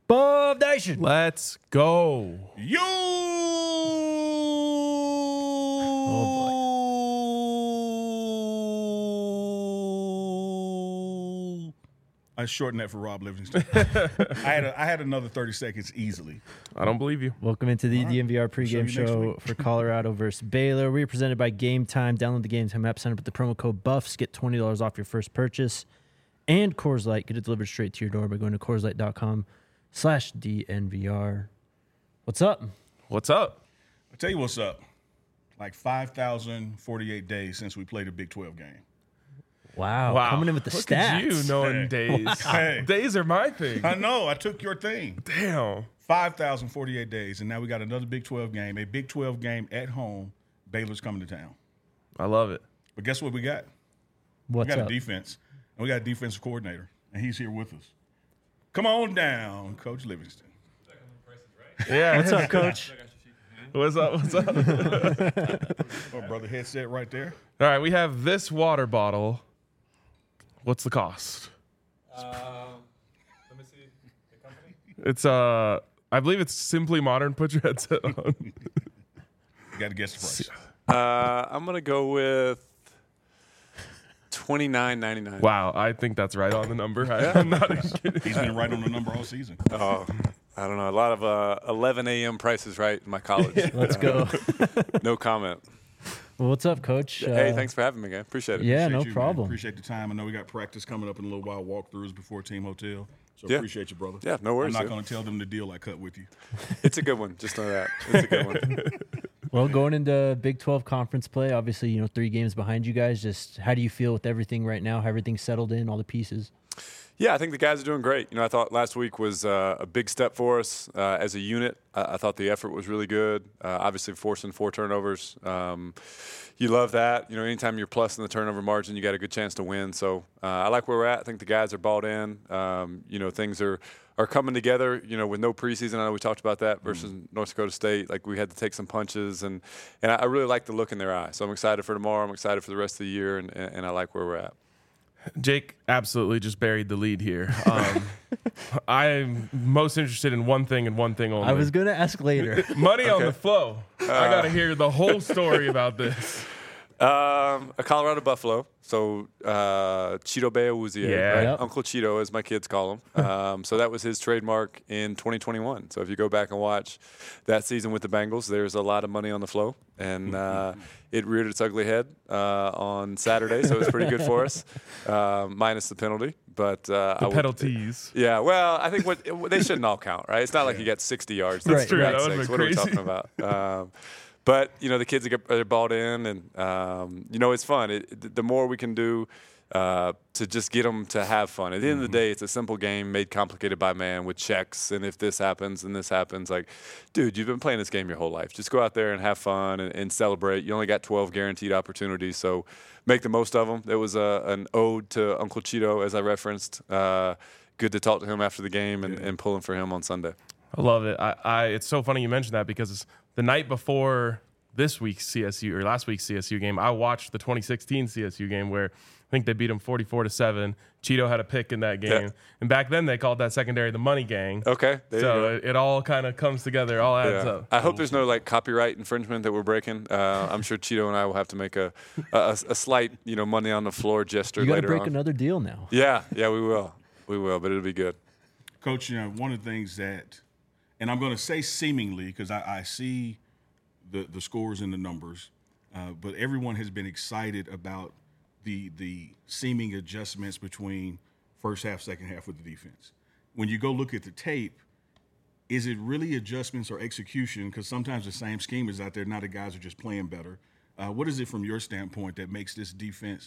Bob Nation. Let's go. You. I shortened that for Rob Livingston. I had another 30 seconds easily. I don't believe you. Welcome into the DNVR pregame you next show week. for Colorado versus Baylor. We are presented by Game Time. Download the Game Time app, sign up with the promo code BUFFS, get $20 off your first purchase. And Coors Light, get it delivered straight to your door by going to CoorsLight.com/DNVR. What's up? What's up? I'll tell you what's up. Like 5,048 days since we played a Big 12 game. Wow. Coming in with the Look stats. at you knowing days. Hey. Days are my thing. I know. I took your thing. Damn. 5,048 days, and now we got another Big 12 game, a Big 12 game at home. Baylor's coming to town. I love it. But guess what we got? What's We got up? a defense, and we got a defensive coordinator, and he's here with us. Come on down, Coach Livingston. Yeah. What's up, Coach? What's up? What's up? Oh, brother, headset right there. All right, we have this water bottle. What's the cost? Let me see the company. It's I believe it's Simply Modern. Put your headset on. You got to guess the price. I'm gonna go with $29.99. Wow, I think that's right on the number. I'm not even kidding. He's been right on the number all season. Oh, I don't know. A lot of 11 a.m. prices right in my college. Let's go. No comment. Well, what's up, Coach? Hey, thanks for having me, guy. Appreciate it. Yeah, Appreciate no you, man. problem. Appreciate the time. I know we got practice coming up in a little while, walkthroughs before Team Hotel. So Yeah. appreciate you, brother. Yeah, no worries, I'm not dude. going to tell them the deal I cut with you. It's a good one. Just know that. It's a good one. Well, going into Big 12 conference play, obviously, 3 games behind you guys. Just how do you feel with everything right now? How everything's settled in, all the pieces? Yeah, I think the guys are doing great. I thought last week was a big step for us as a unit. I thought the effort was really good. Obviously, forcing 4 turnovers. You love that. Anytime you're plus in the turnover margin, you got a good chance to win. So I like where we're at. I think the guys are bought in. Things are coming together, with no preseason. I know we talked about that versus North Dakota State. Like, we had to take some punches, and I really like the look in their eyes. So I'm excited for tomorrow. I'm excited for the rest of the year, and I like where we're at. Jake absolutely just buried the lead here. I'm most interested in one thing and one thing only. I was going to ask later. Money on the flow. I got to hear the whole story about this. A Colorado Buffalo, so Cheeto Beawuzie, Yeah. right? Yep. Uncle Cheeto, as my kids call him. So that was his trademark in 2021. So if you go back and watch that season with the Bengals, there's a lot of money on the flow, and it reared its ugly head on Saturday, so it was pretty good for us, minus the penalty. But The penalties. yeah, well, I think they shouldn't all count, right? It's not like you got 60 yards. That's true. That God's would've sakes, been what are we crazy. talking about? But the kids are bought in, and it's fun. The more we can do to just get them to have fun. At the end of the day, it's a simple game made complicated by man with checks, and if this happens and this happens, like, dude, you've been playing this game your whole life. Just go out there and have fun and celebrate. You only got 12 guaranteed opportunities, so make the most of them. There was an ode to Uncle Cheeto, as I referenced. Good to talk to him after the game and pulling for him on Sunday. I love it. It's so funny you mentioned that because the night before this week's CSU or last week's CSU game, I watched the 2016 CSU game where I think they beat them 44-7. Cheeto had a pick in that game, and back then they called that secondary the Money Gang. Okay, there you go. So it all kind of comes together, all adds up. I hope there's no copyright infringement that we're breaking. I'm sure Cheeto and I will have to make a slight money on the floor gesture You got to later break on. another deal now. Yeah, we will, but it'll be good. Coach, one of the things that, and I'm going to say seemingly because I see the scores and the numbers, but everyone has been excited about the seeming adjustments between first half, second half with the defense. When you go look at the tape, is it really adjustments or execution? Because sometimes the same scheme is out there. Now the guys are just playing better. What is it from your standpoint that makes this defense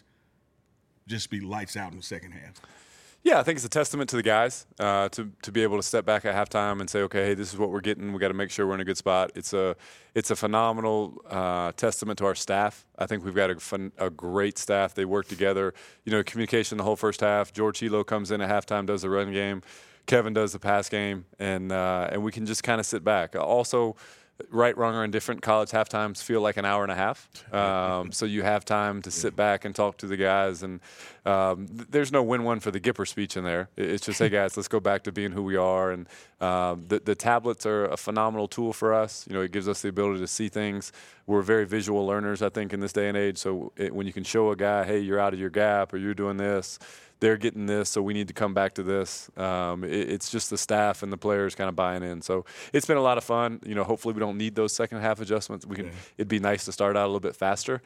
just be lights out in the second half? Yeah, I think it's a testament to the guys to be able to step back at halftime and say, okay, hey, this is what we're getting. We got to make sure we're in a good spot. It's a phenomenal testament to our staff. I think we've got a great staff. They work together. Communication the whole first half. George Hilo comes in at halftime, does the run game. Kevin does the pass game, and we can just kind of sit back. Also, right, wrong, or indifferent, college halftimes feel like an hour and a half. So you have time to sit back and talk to the guys. And there's no win-one for the Gipper speech in there. It's just, hey, guys, let's go back to being who we are. And the tablets are a phenomenal tool for us. It gives us the ability to see things. We're very visual learners, I think, in this day and age. So when you can show a guy, hey, you're out of your gap or you're doing this, they're getting this, so we need to come back to this. It's just the staff and the players kind of buying in. So it's been a lot of fun. Hopefully we don't need those second half adjustments. It'd be nice to start out a little bit faster,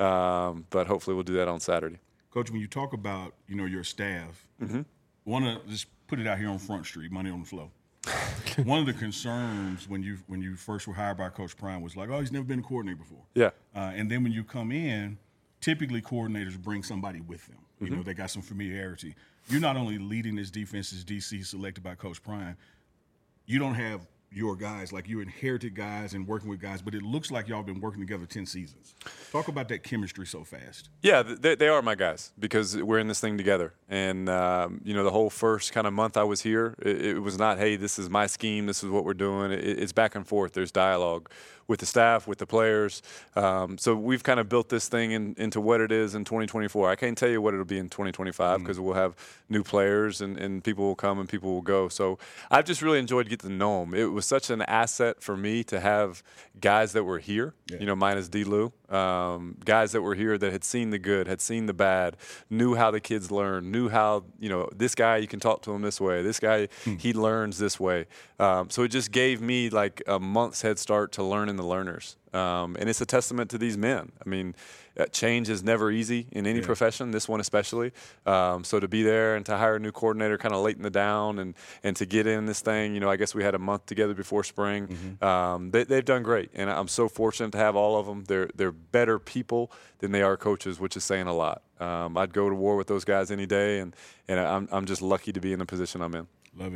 but hopefully we'll do that on Saturday. Coach, when you talk about your staff, want to just put it out here on Front Street, Money on the Flow. One of the concerns when you first were hired by Coach Prime was like, oh, he's never been a coordinator before. Yeah. And then when you come in, typically coordinators bring somebody with them. They got some familiarity. You're not only leading this defense as DC selected by Coach Prime, you don't have your guys, like you inherited guys and working with guys, but it looks like y'all been working together 10 seasons. Talk about that chemistry so fast. Yeah, they are my guys because we're in this thing together. And, the whole first kind of month I was here, it was not, hey, this is my scheme, this is what we're doing. It's back and forth. There's dialogue with the staff, with the players. So we've kind of built this thing into what it is in 2024. I can't tell you what it'll be in 2025 because we'll have new players and people will come and people will go. So I've just really enjoyed getting to know them. It was such an asset for me to have guys that were here, minus D-Lou, guys that were here that had seen the good, had seen the bad, knew how the kids learn, knew how, this guy, you can talk to him this way. This guy, he learns this way. So it just gave me like a month's head start to learning the learners. And it's a testament to these men. I mean, change is never easy in any profession, this one especially. So to be there and to hire a new coordinator kind of late in the down and to get in this thing, I guess we had a month together before spring. They've done great, and I'm so fortunate to have all of them. They're better people than they are coaches, which is saying a lot. I'd go to war with those guys any day, and I'm just lucky to be in the position I'm in. Love it.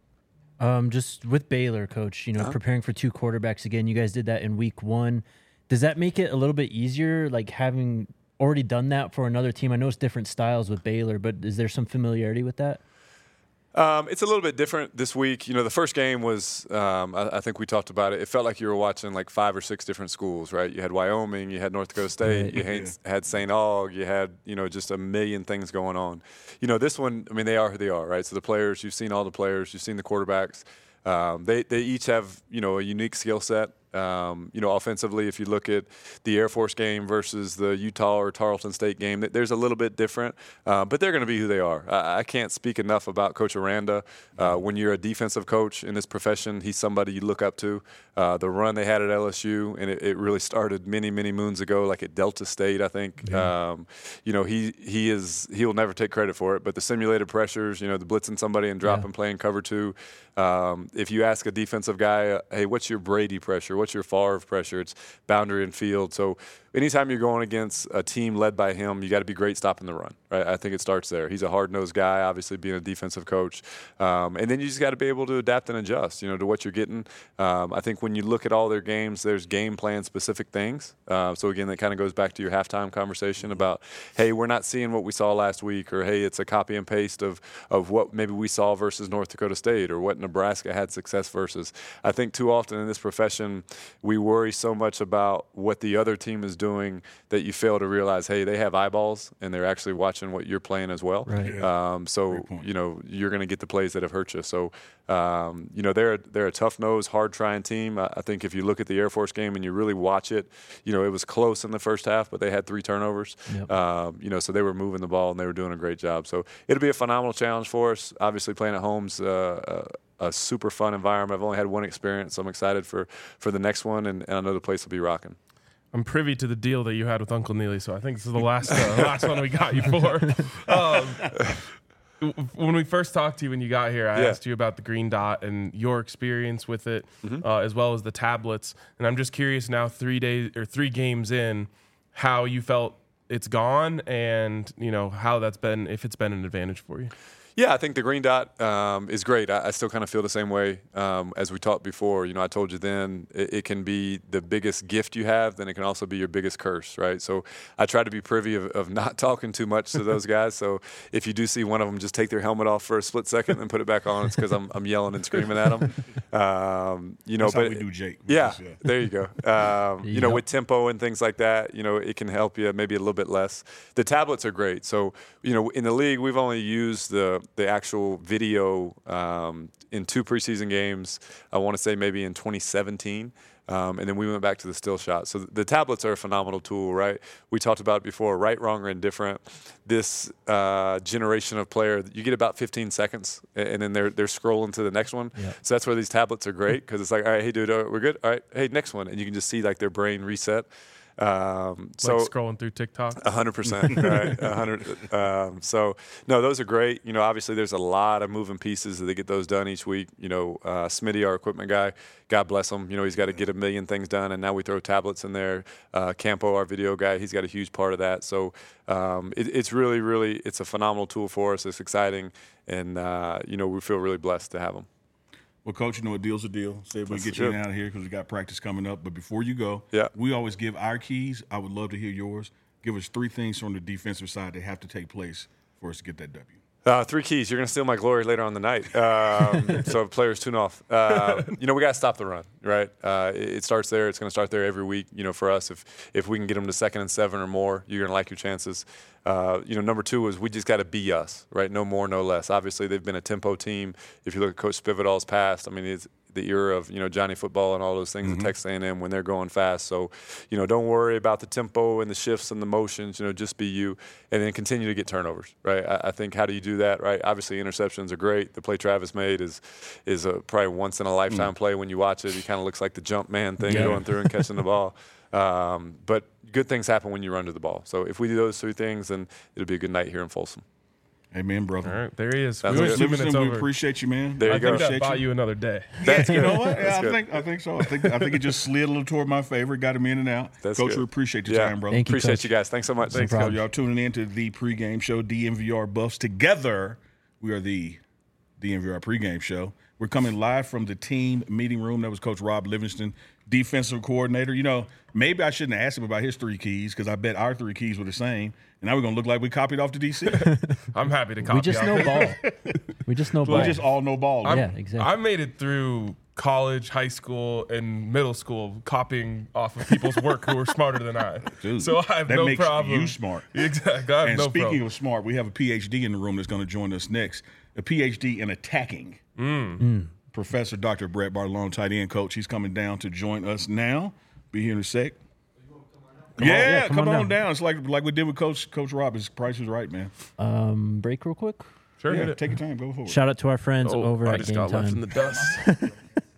Just with Baylor, Coach, preparing for two quarterbacks again, you guys did that in week 1. Does that make it a little bit easier, like having already done that for another team? I know it's different styles with Baylor, but is there some familiarity with that? It's a little bit different this week. The first game was, I think we talked about it. It felt like you were watching like 5 or 6 different schools, right? You had Wyoming, you had North Dakota State, you had St. Aug, you had, just a million things going on. This one, I mean, they are who they are, right? So the players, you've seen all the players, you've seen the quarterbacks. They each have, a unique skill set. Offensively, if you look at the Air Force game versus the Utah or Tarleton State game, there's a little bit different, but they're going to be who they are. I can't speak enough about Coach Aranda. When you're a defensive coach in this profession, he's somebody you look up to. The run they had at LSU, and it really started many, many moons ago, like at Delta State, I think. He'll never take credit for it, but the simulated pressures, the blitzing somebody and dropping, playing cover 2. If you ask a defensive guy, hey, what's your Brady pressure? What's your Favre pressure? It's boundary and field. So anytime you're going against a team led by him, you got to be great stopping the run, right? I think it starts there. He's a hard-nosed guy, obviously being a defensive coach. And then you just got to be able to adapt and adjust, to what you're getting. I think when you look at all their games, there's game plan specific things. So again, that kind of goes back to your halftime conversation about, hey, we're not seeing what we saw last week, or hey, it's a copy and paste of what maybe we saw versus North Dakota State, or what Nebraska had success versus. I think too often in this profession, we worry so much about what the other team is doing that you fail to realize, hey, they have eyeballs and they're actually watching what you're playing as well. Right. You're going to get the plays that have hurt you. So, they're a tough-nosed, hard-trying team. I think if you look at the Air Force game and you really watch it, it was close in the first half, but they had 3 turnovers. Yep. So they were moving the ball and they were doing a great job. So it'll be a phenomenal challenge for us. Obviously, playing at home's a super fun environment. I've only had one experience, so I'm excited for the next one, and I know the place will be rocking. I'm privy to the deal that you had with Uncle Neely, so I think this is the last one we got you for. When we first talked to you when you got here, I asked you about the green dot and your experience with it, as well as the tablets. And I'm just curious now, 3 games in, how you felt it's gone, and how that's been, if it's been an advantage for you. Yeah, I think the green dot is great. I still kind of feel the same way as we talked before. You know, I told you then it can be the biggest gift you have, then it can also be your biggest curse, right? So I try to be privy of not talking too much to those guys. So if you do see one of them just take their helmet off for a split second and put it back on, it's because I'm yelling and screaming at them. You know, That's but how we do Jake. yeah, there you go. You know, with tempo and things like that, you know, it can help you maybe a little bit less. The tablets are great. So, you know, in the league, we've only used the actual video in 2 preseason games. I want to say maybe in 2017. And then we went back to the still shot. So the tablets are a phenomenal tool, right? We talked about it before, right, wrong, or indifferent. This generation of player, you get about 15 seconds, and then they're scrolling to the next one. Yeah. So that's where these tablets are great, because it's like, all right, hey, dude, we're good? All right, hey, next one. And you can just see, like, their brain reset. So scrolling through TikTok. 100%, right? 100. So no, those are great. You know, obviously there's a lot of moving pieces that they get those done each week. You know, Smitty, our equipment guy, God bless him. You know, he's got to get a million things done, and now we throw tablets in there. Campo, our video guy, he's got a huge part of that. So it's really, really, it's a phenomenal tool for us. It's exciting, and you know, we feel really blessed to have them. Well, Coach, you know, a deal's a deal. Say we get you out of here because we got practice coming up. But before you go, we always give our keys. I would love to hear yours. Give us 3 things from the defensive side that have to take place for us to get that W. 3 keys. You're going to steal my glory later on the night. So players tune off. You know, we got to stop the run, right? It starts there. It's going to start there every week. You know, for us, if we can get them to 2nd and 7 or more, you're going to like your chances. You know, number 2 is we just got to be us, right? No more, no less. Obviously, they've been a tempo team. If you look at Coach Spividal's past, I mean, it's the era of, you know, Johnny Football and all those things at Texas A&M when they're going fast. So, you know, don't worry about the tempo and the shifts and the motions. You know, just be you, and then continue to get turnovers, right? I think, how do you do that, right? Obviously, interceptions are great. The play Travis made is a probably once in a lifetime play when you watch it. He kind of looks like the jump man thing going through and catching the ball. But good things happen when you run to the ball. So if we do those 3 things, then it'll be a good night here in Folsom. Amen, brother. All right, there he is. We appreciate you, man. There you go. I think that bought you another day. That's you know what? Yeah, I think so. I think it just slid a little toward my favor. Got him in and out. That's Coach, good. we appreciate your time, brother. Thank you, Appreciate Coach. you guys. Thanks so much. Thanks, Coach. Y'all tuning in to the pregame show, DNVR Buffs. Together, we are the DNVR pregame show. We're coming live from the team meeting room. That was Coach Rob Livingston, defensive coordinator. You know, maybe I shouldn't have asked him about his 3 keys, because I bet our 3 keys were the same. And now we're going to look like we copied off the DC. I'm happy to copy. We just know ball. We just know ball. We just all know ball. Yeah, exactly. I made it through college, high school, and middle school copying off of people's work who were smarter than I. Dude, so I have that no makes problem. you smart. Exactly. I have And no speaking problem. of smart, we have a PhD in the room that's going to join us next. A PhD in attacking. Professor Dr. Brett Bartolone, tight end coach. He's coming down to join us now. Be here in a sec. Come on down. It's like we did with Coach Rob. His price is right, man. Break real quick. Sure. Yeah, take your time. Go forward. Shout out to our friends over I at just Game got left in Time. the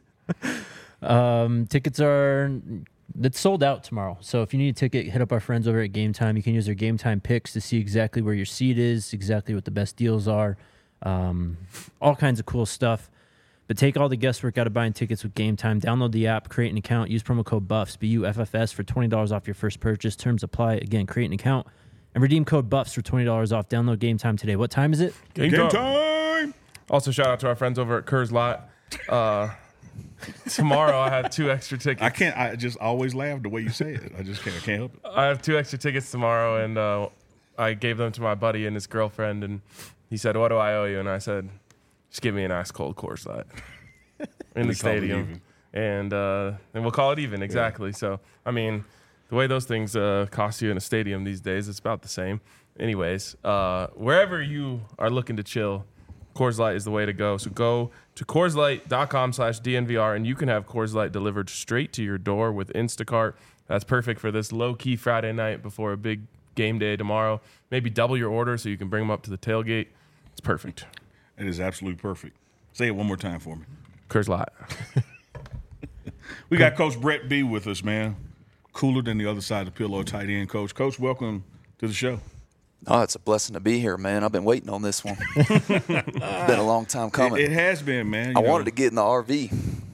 dust. Tickets it's sold out tomorrow. So if you need a ticket, hit up our friends over at Game Time. You can use their Game Time picks to see exactly where your seat is, exactly what the best deals are, all kinds of cool stuff. But take all the guesswork out of buying tickets with Game Time. Download the app, create an account, use promo code BUFFS, BUFFS, for $20 off your first purchase. Terms apply. Again, create an account and redeem code BUFFS for $20 off. Download Game Time today. What time is it? Game Game time. time. Also, shout out to our friends over at Kerr's Lot. Tomorrow, I have 2 extra tickets. I just always laugh the way you say it. I just can't help it. I have 2 extra tickets tomorrow, and I gave them to my buddy and his girlfriend, and he said, "What do I owe you?" And I said, "Just give me an ice cold Coors Light in the stadium, and we'll call it even." Exactly. Yeah. So, I mean, the way those things cost you in a stadium these days, it's about the same. Anyways, wherever you are looking to chill, Coors Light is the way to go. So go to CoorsLight.com/DNVR, and you can have Coors Light delivered straight to your door with Instacart. That's perfect for this low-key Friday night before a big game day tomorrow. Maybe double your order so you can bring them up to the tailgate. It's perfect. It is absolutely perfect. Say it one more time for me. Coors Light. We got Coach Brett B with us, man. Cooler than the other side of the pillow, tight end coach. Coach, welcome to the show. Oh, it's a blessing to be here, man. I've been waiting on this one. It's been a long time coming. It has been, man. I wanted to get in the RV.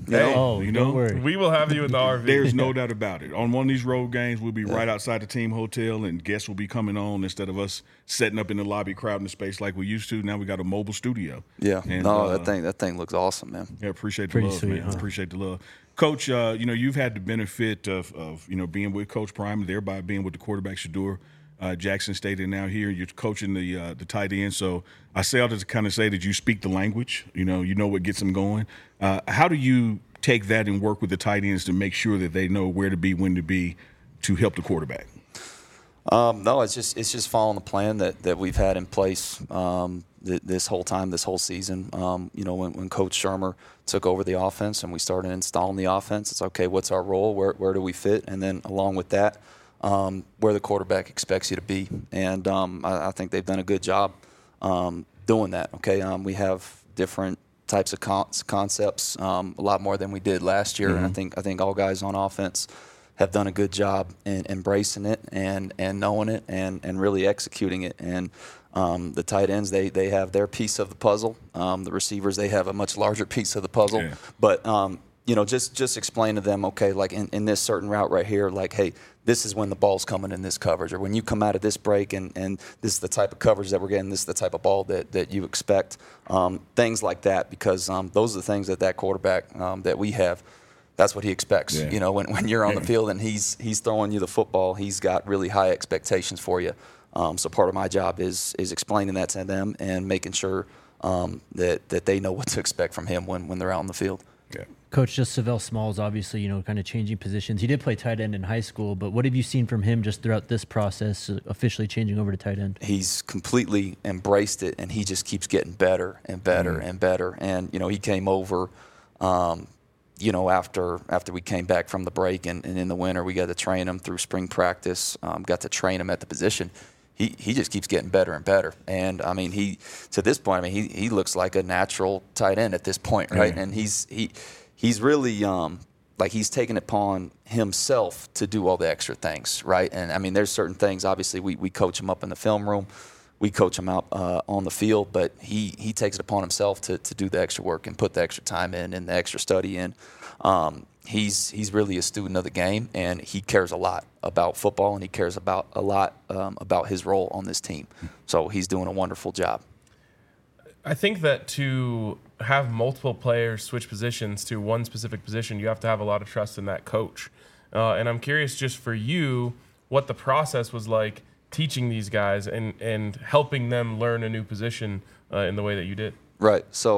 Don't worry. We will have you in the RV. There's no doubt about it. On one of these road games, we'll be right outside the team hotel, and guests will be coming on instead of us setting up in the lobby, crowding the space like we used to. Now we got a mobile studio. Yeah. And, that thing looks awesome, man. Yeah, appreciate the Pretty love, sweet, man. huh? Appreciate the love. Coach, you've had the benefit of being with Coach Prime and thereby being with the quarterback Shedeur Jackson State, and now here you're coaching the tight end. So I say all this to kind of say that you speak the language. You know what gets them going. How do you take that and work with the tight ends to make sure that they know where to be, when to be, to help the quarterback? No, it's just following the plan that we've had in place this whole time, this whole season. When Coach Shermer took over the offense and we started installing the offense, it's okay. What's our role? Where do we fit? And then along with that, where the quarterback expects you to be. And I think they've done a good job doing that. Okay, we have different types of concepts, a lot more than we did last year. And I think all guys on offense have done a good job in embracing it and knowing it and really executing it. And the tight ends, they have their piece of the puzzle. The receivers, they have a much larger piece of the puzzle. Yeah. But just explain to them, okay, like in this certain route right here, like, hey, this is when the ball's coming in this coverage, or when you come out of this break and this is the type of coverage that we're getting, this is the type of ball that you expect, things like that, because those are the things that quarterback that we have, that's what he expects. Yeah. When you're on the field and he's throwing you the football, he's got really high expectations for you. So part of my job is explaining that to them and making sure that they know what to expect from him when they're out on the field. Yeah. Coach, just Savell Smalls, obviously, kind of changing positions. He did play tight end in high school, but what have you seen from him just throughout this process, officially changing over to tight end? He's completely embraced it, and he just keeps getting better and better and better. And, he came over, after we came back from the break and in the winter, we got to train him through spring practice, got to train him at the position. He just keeps getting better and better. And, to this point, he looks like a natural tight end at this point, right? Yeah. And he's really he's taken it upon himself to do all the extra things, right? And, there's certain things, obviously, we coach him up in the film room. We coach him out on the field, but he takes it upon himself to do the extra work and put the extra time in and the extra study in. He's really a student of the game, and he cares a lot about football, and he cares a lot about his role on this team. So he's doing a wonderful job. I think that to have multiple players switch positions to one specific position, you have to have a lot of trust in that coach. And I'm curious, just for you, what the process was like teaching these guys and helping them learn a new position in the way that you did. Right. So,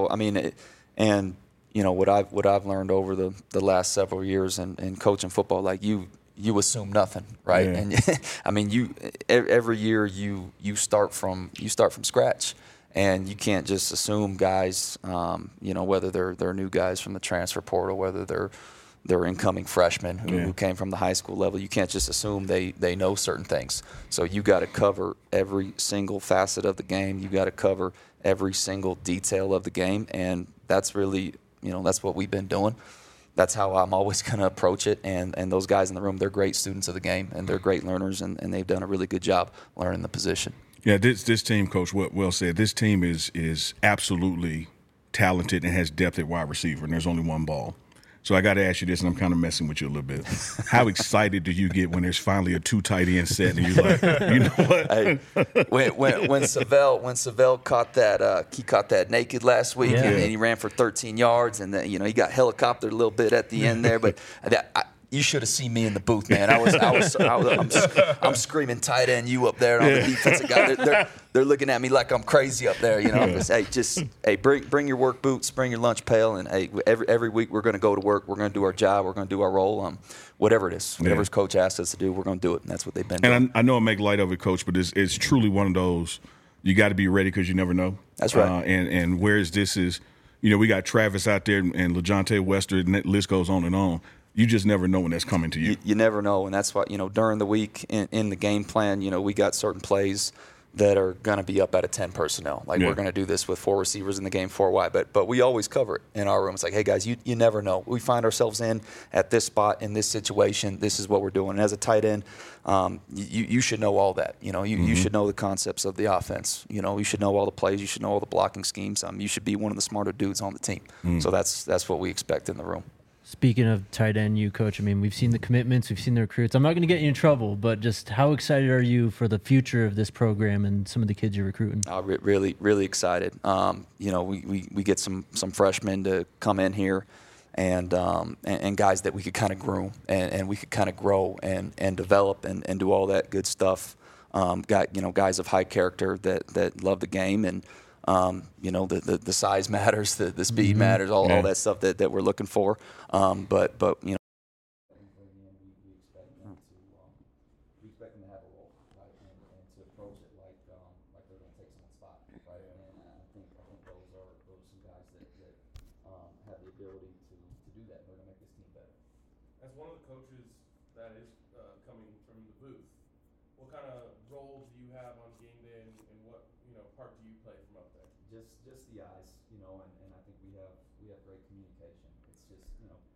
what I've learned over the last several years in coaching football, like you assume nothing, right? Yeah. And every year you start from scratch, and you can't just assume guys, whether they're new guys from the transfer portal, whether they're incoming freshmen who came from the high school level. You can't just assume they know certain things. So you got to cover every single facet of the game. You got to cover every single detail of the game, and that's really that's what we've been doing. That's how I'm always going to approach it. And those guys in the room, they're great students of the game, and they're great learners, and they've done a really good job learning the position. Yeah, this team, Coach, well said. This team is absolutely talented and has depth at wide receiver, and there's only one ball. So I got to ask you this, and I'm kind of messing with you a little bit. How excited do you get when there's finally a 2 tight end set, and you're like, you know what? Hey, when Savell caught that naked last week, and he ran for 13 yards, and then, he got helicoptered a little bit at the end there, but you should have seen me in the booth, man. I'm screaming tight end you up there on the defensive guy. They're looking at me like I'm crazy up there, bring your work boots, bring your lunch pail, and every week we're going to go to work. We're going to do our job. We're going to do our role. Whatever it is, whatever his coach asks us to do, we're going to do it, and that's what they've been doing. And I know I make light of it, Coach, but it's truly one of those. You got to be ready because you never know. That's right. And whereas this is, we got Travis out there and LeJontay Wester, and that list goes on and on. You just never know when that's coming to you. You never know, and that's why, during the week in the game plan, we got certain plays that are going to be up out of 10 personnel. Like, we're going to do this with 4 receivers in the game, 4 wide. But we always cover it in our room. It's like, hey, guys, you never know. We find ourselves at this spot, in this situation. This is what we're doing. And as a tight end, you should know all that. You should know the concepts of the offense. You should know all the plays. You should know all the blocking schemes. You should be one of the smarter dudes on the team. So that's what we expect in the room. Speaking of tight end, you coach, I mean, we've seen the commitments, we've seen the recruits. I'm not going to get you in trouble, but just how excited are you for the future of this program and some of the kids you're recruiting? Really, really excited. You know, we get some freshmen to come in here, and guys that we could kind of groom and we could kind of grow and develop and do all that good stuff. Guys of high character that love the game, and you know, the size matters, the speed matters, all that stuff that we're looking for. But you know, we expect them to have a role, right, and to approach it like they're going to take someone's spot, right. And I think those are some guys that have the ability to do that. They're going to make this team better. As one of the coaches that is coming from the booth, what kind of role do you have on game day, and what part do you play from up there? Just the eyes, you know, and I think we have great communication. It's just, you know,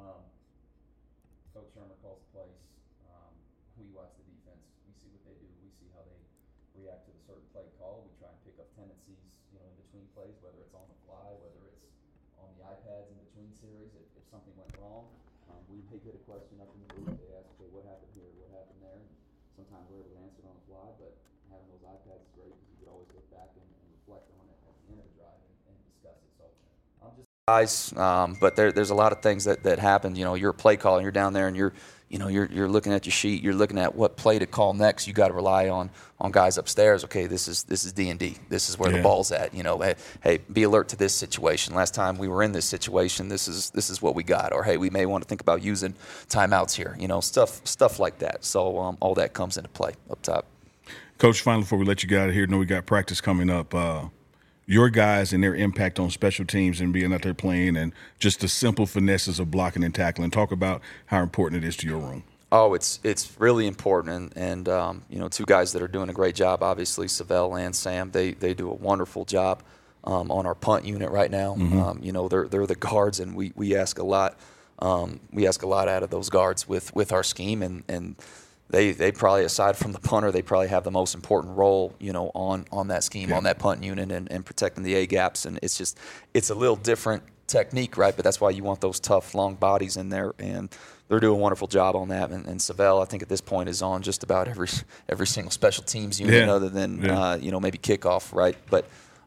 Coach Shermer calls the plays. We watch the defense. We see what they do. We see how they react to the certain play call. We try and pick up tendencies, you know, in between plays, whether it's on the fly, whether it's on the iPads in between series. If something went wrong, we may get a question up in the booth. They ask, okay, what happened here? What happened there? And sometimes we're able to answer it on the fly, but having those iPads is great because you could always look back and reflect on it at the end of the drive and discuss it. So I'm just guys, but there's a lot of things that happen. You know, you're a play caller, and you're down there, and you're looking at your sheet, you're looking at what play to call next. You got to rely on guys upstairs. Okay, this is D&D. This is where the ball's at. You know, hey, be alert to this situation. Last time we were in this situation, this is what we got. Or hey, we may want to think about using timeouts here. You know, stuff like that. So all that comes into play up top. Coach, finally, before we let you get out of here, know we got practice coming up. Your guys and their impact on special teams and being out there playing, and just the simple finesses of blocking and tackling. Talk about how important it is to your room. Oh, it's really important, and you know, two guys that are doing a great job. Obviously, Savell and Sam, they do a wonderful job on our punt unit right now. You know, they're the guards, and we ask a lot. We ask a lot out of those guards with our scheme, and They probably, aside from the punter, they probably have the most important role, you know, on that scheme, on that punt unit, and protecting the A gaps. And it's a little different technique, right? But that's why you want those tough, long bodies in there, and they're doing a wonderful job on that. And Savell, I think at this point, is on just about every single special teams unit, other than you know, maybe kickoff, right? But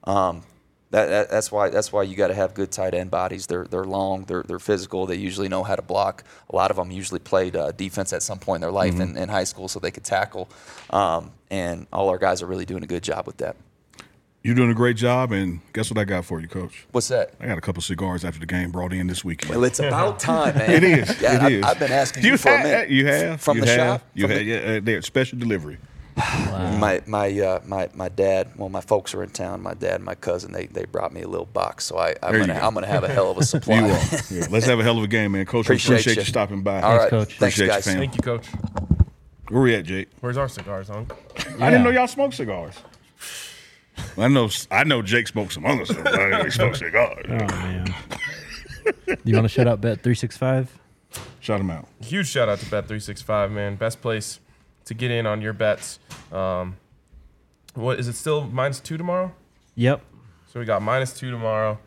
that's why you got to have good tight end bodies. They're long, they're physical. They usually know how to block. A lot of them usually played defense at some point in their life in high school, so they could tackle. And all our guys are really doing a good job with that. You're doing a great job, and guess what I got for you, Coach? What's that? I got a couple cigars after the game brought in this weekend. Well, it's about time, man. It is. Yeah, it is. I've been asking you for a minute. You have from the shop. You have. Yeah, they're special delivery. Wow. My dad. Well, my folks are in town. My dad and my cousin. They brought me a little box. So I'm gonna have a hell of a supply. You are. Yeah. Let's have a hell of a game, man. Coach, appreciate you stopping by. All right, Coach. Thanks, Appreciate guys. you, fam. Thank you, Coach. Where we at, Jake? Where's our cigars, Unc? I didn't know y'all smoked cigars. I know Jake smoked some other stuff. I didn't know he smoked cigars. Oh, man. You want to shout out Bet365? Shout him out. Huge shout out to Bet365, man. Best place to get in on your bets. What is it still -2 tomorrow? Yep. So we got -2 tomorrow.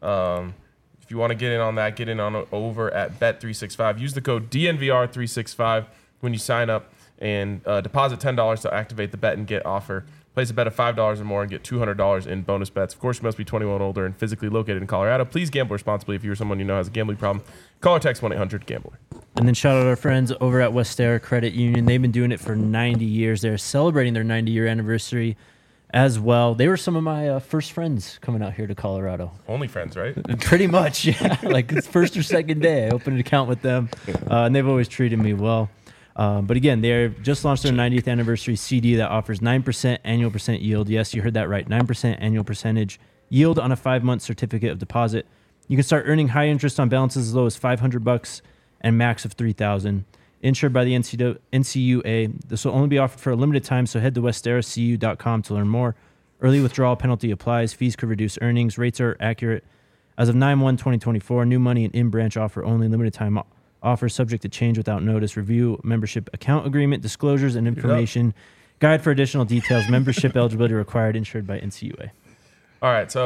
If you want to get in on that, get in on over at Bet365. Use the code DNVR365 when you sign up, and deposit $10 to activate the bet and get offer. Place a bet of $5 or more and get $200 in bonus bets. Of course, you must be 21 or older and physically located in Colorado. Please gamble responsibly. If you're someone you know has a gambling problem, call or text 1-800-GAMBLER. And then shout out our friends over at Westera Credit Union. They've been doing it for 90 years. They're celebrating their 90-year anniversary as well. They were some of my first friends coming out here to Colorado. Only friends, right? Pretty much, yeah. Like it's first or second day, I opened an account with them, and they've always treated me well. But again, they just launched their 90th anniversary CD that offers 9% annual percent yield. Yes, you heard that right. 9% annual percentage yield on a 5-month certificate of deposit. You can start earning high interest on balances as low as $500 and max of $3,000. Insured by the NCUA. This will only be offered for a limited time, so head to westeracu.com to learn more. Early withdrawal penalty applies. Fees could reduce earnings. Rates are accurate as of 9/1/2024. New money and in-branch offer only. Limited time offer subject to change without notice. Review membership account agreement, disclosures, and information. Guide for additional details. Membership eligibility required. Insured by NCUA. All right, so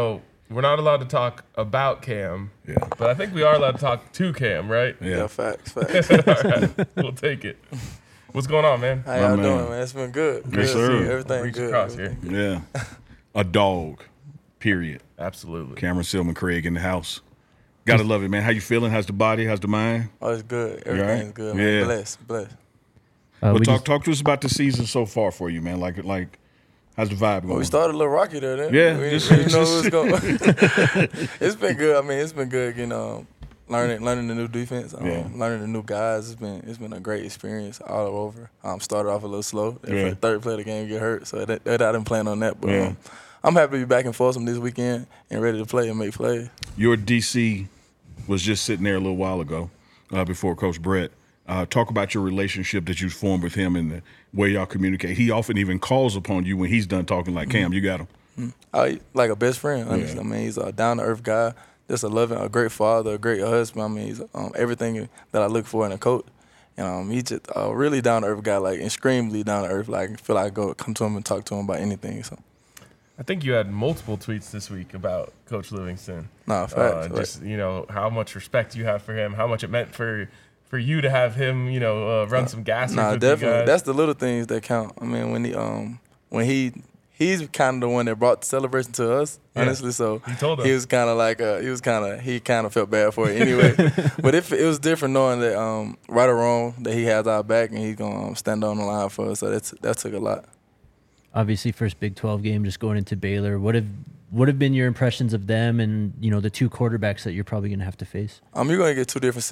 we're not allowed to talk about Cam, Yeah. but I think we are allowed to talk to Cam, right? Yeah. Facts. All right, we'll take it. What's going on, man? How y'all man. doing, man? It's been good. Yes, Good. sir. Everything Reach good. across Everything here. Yeah. A dog, period. Absolutely. Cameron Silman Craig in the house. Gotta love it, man. How you feeling? How's the body? How's the mind? Oh, it's good. You all right? Everything's good, man. Yeah. Blessed. Well, we talk to us about the season so far for you, man. Like, how's the vibe going? Well, we started a little rocky there, then. Yeah, We just- didn't know it was going. It's been good. I mean, it's been good getting learning the new defense, learning the new guys. It's been a great experience all over. Started off a little slow. For the third play of the game, get hurt, so I didn't plan on that. But I'm happy to be back in Folsom this weekend and ready to play and make plays. Your DC was just sitting there a little while ago before Coach Brett. Talk about your relationship that you formed with him and the way y'all communicate. He often even calls upon you when he's done talking like, Cam, you got him. Like a best friend, honestly. Yeah. I mean, he's a down-to-earth guy, just a great father, a great husband. I mean, he's everything that I look for in a coach. And he's just a really down-to-earth guy, like extremely down-to-earth. Like, I feel like I go come to him and talk to him about anything. So, I think you had multiple tweets this week about Coach Livingston. nah, facts. Just how much respect you have for him, how much it meant for you to have him, run some gas. Nah, with definitely. You guys. That's the little things that count. I mean, when he's kind of the one that brought the celebration to us, honestly. So He told us. he was kind of like he kind of felt bad for it anyway. But it was different knowing that right or wrong that he has our back and he's gonna stand on the line for us. So that took a lot. Obviously, first Big 12 game, just going into Baylor. What have been your impressions of them and the two quarterbacks that you're probably going to have to face? You're gonna get two different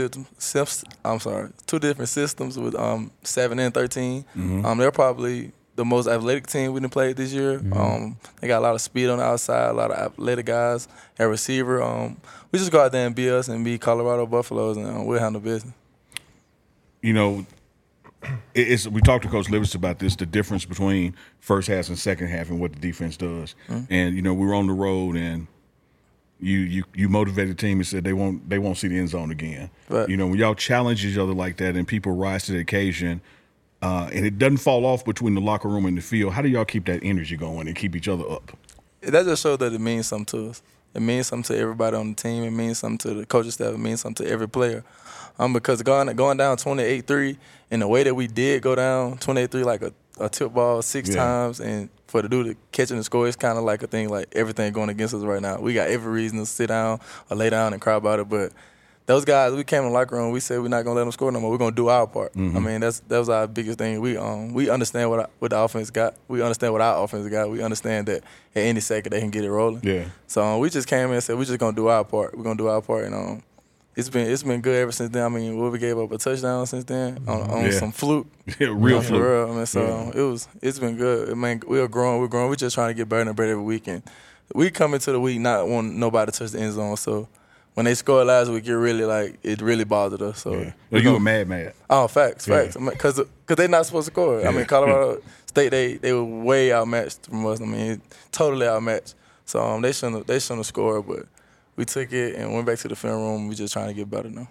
systems with 7 and 13. They're probably the most athletic team we done played this year. They got a lot of speed on the outside, a lot of athletic guys at receiver. We just go out there and be us and be Colorado Buffaloes, and we'll handle business. We talked to Coach Livingston about this, the difference between first half and second half and what the defense does. And, we were on the road and you motivated the team and said they won't see the end zone again. Right. When y'all challenge each other like that and people rise to the occasion and it doesn't fall off between the locker room and the field, how do y'all keep that energy going and keep each other up? That just shows that it means something to us. It means something to everybody on the team. It means something to the coaching staff. It means something to every player. Because going down 28-3 in the way that we did go down 28-3 like a tip ball 6 times, and for the dude to catch and score, it's kind of like a thing like everything going against us right now. We got every reason to sit down or lay down and cry about it, but those guys, we came in the locker room, we said we're not going to let them score no more. We're going to do our part. I mean, that was our biggest thing. We understand what the offense got. We understand what our offense got. We understand that at any second they can get it rolling. Yeah. So we just came in and said we're just going to do our part. We're going to do our part, and it's been good ever since then. I mean, we gave up a touchdown since then on some fluke. Yeah, real For fluke. real. I mean, so it's been good. I mean, we're growing. We're just trying to get better and better every week. And we come into the week not wanting nobody to touch the end zone. So when they scored last week, it really bothered us. So You were mad. Oh, facts. Because they're not supposed to score. I mean, Colorado State, they were way outmatched from us. I mean, totally outmatched. So they shouldn't have scored, but we took it and went back to the film room. We're just trying to get better now.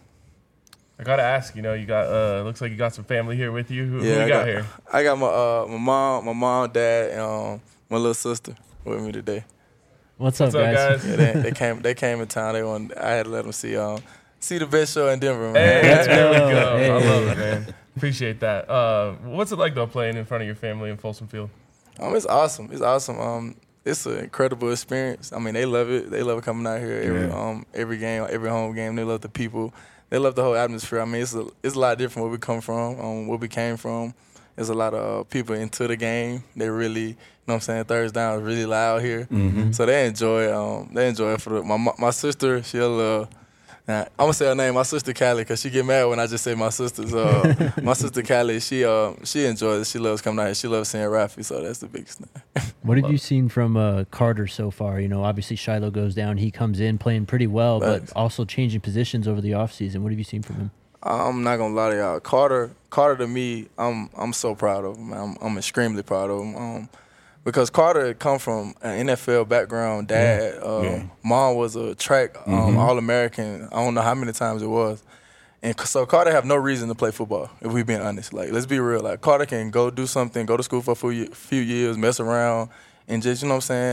I gotta ask, you got looks like you got some family here with you. Who you got here? I got my mom, dad, and my little sister with me today. What's up, guys? Yeah, they came in town. I had to let them see the best show in Denver, man. Hey, there we go. go. Hey. I love it, man. Appreciate that. What's it like though playing in front of your family in Folsom Field? It's awesome. It's awesome. It's an incredible experience. I mean, they love it. They love coming out here every game, every home game. They love the people. They love the whole atmosphere. I mean, it's a lot different where we come from, where we came from. There's a lot of people into the game. They really, third down is really loud here. So they enjoy it. For my sister, she'll I'm gonna say her name, my sister Callie, because she get mad when I just say my sister. So my sister Callie, she enjoys it. She loves coming out here. She loves seeing Rafi, so that's the biggest thing. What have you seen from Carter so far? Obviously Shiloh goes down. He comes in playing pretty well, Thanks. but also changing positions over the offseason. What have you seen from him? I'm not gonna lie to y'all. Carter to me, I'm so proud of him. I'm extremely proud of him. Because Carter come from an NFL background. Dad, mom was a track All-American. I don't know how many times it was. And so Carter have no reason to play football, if we being honest. Like, let's be real. Like, Carter can go do something, go to school for a few years, mess around, and just,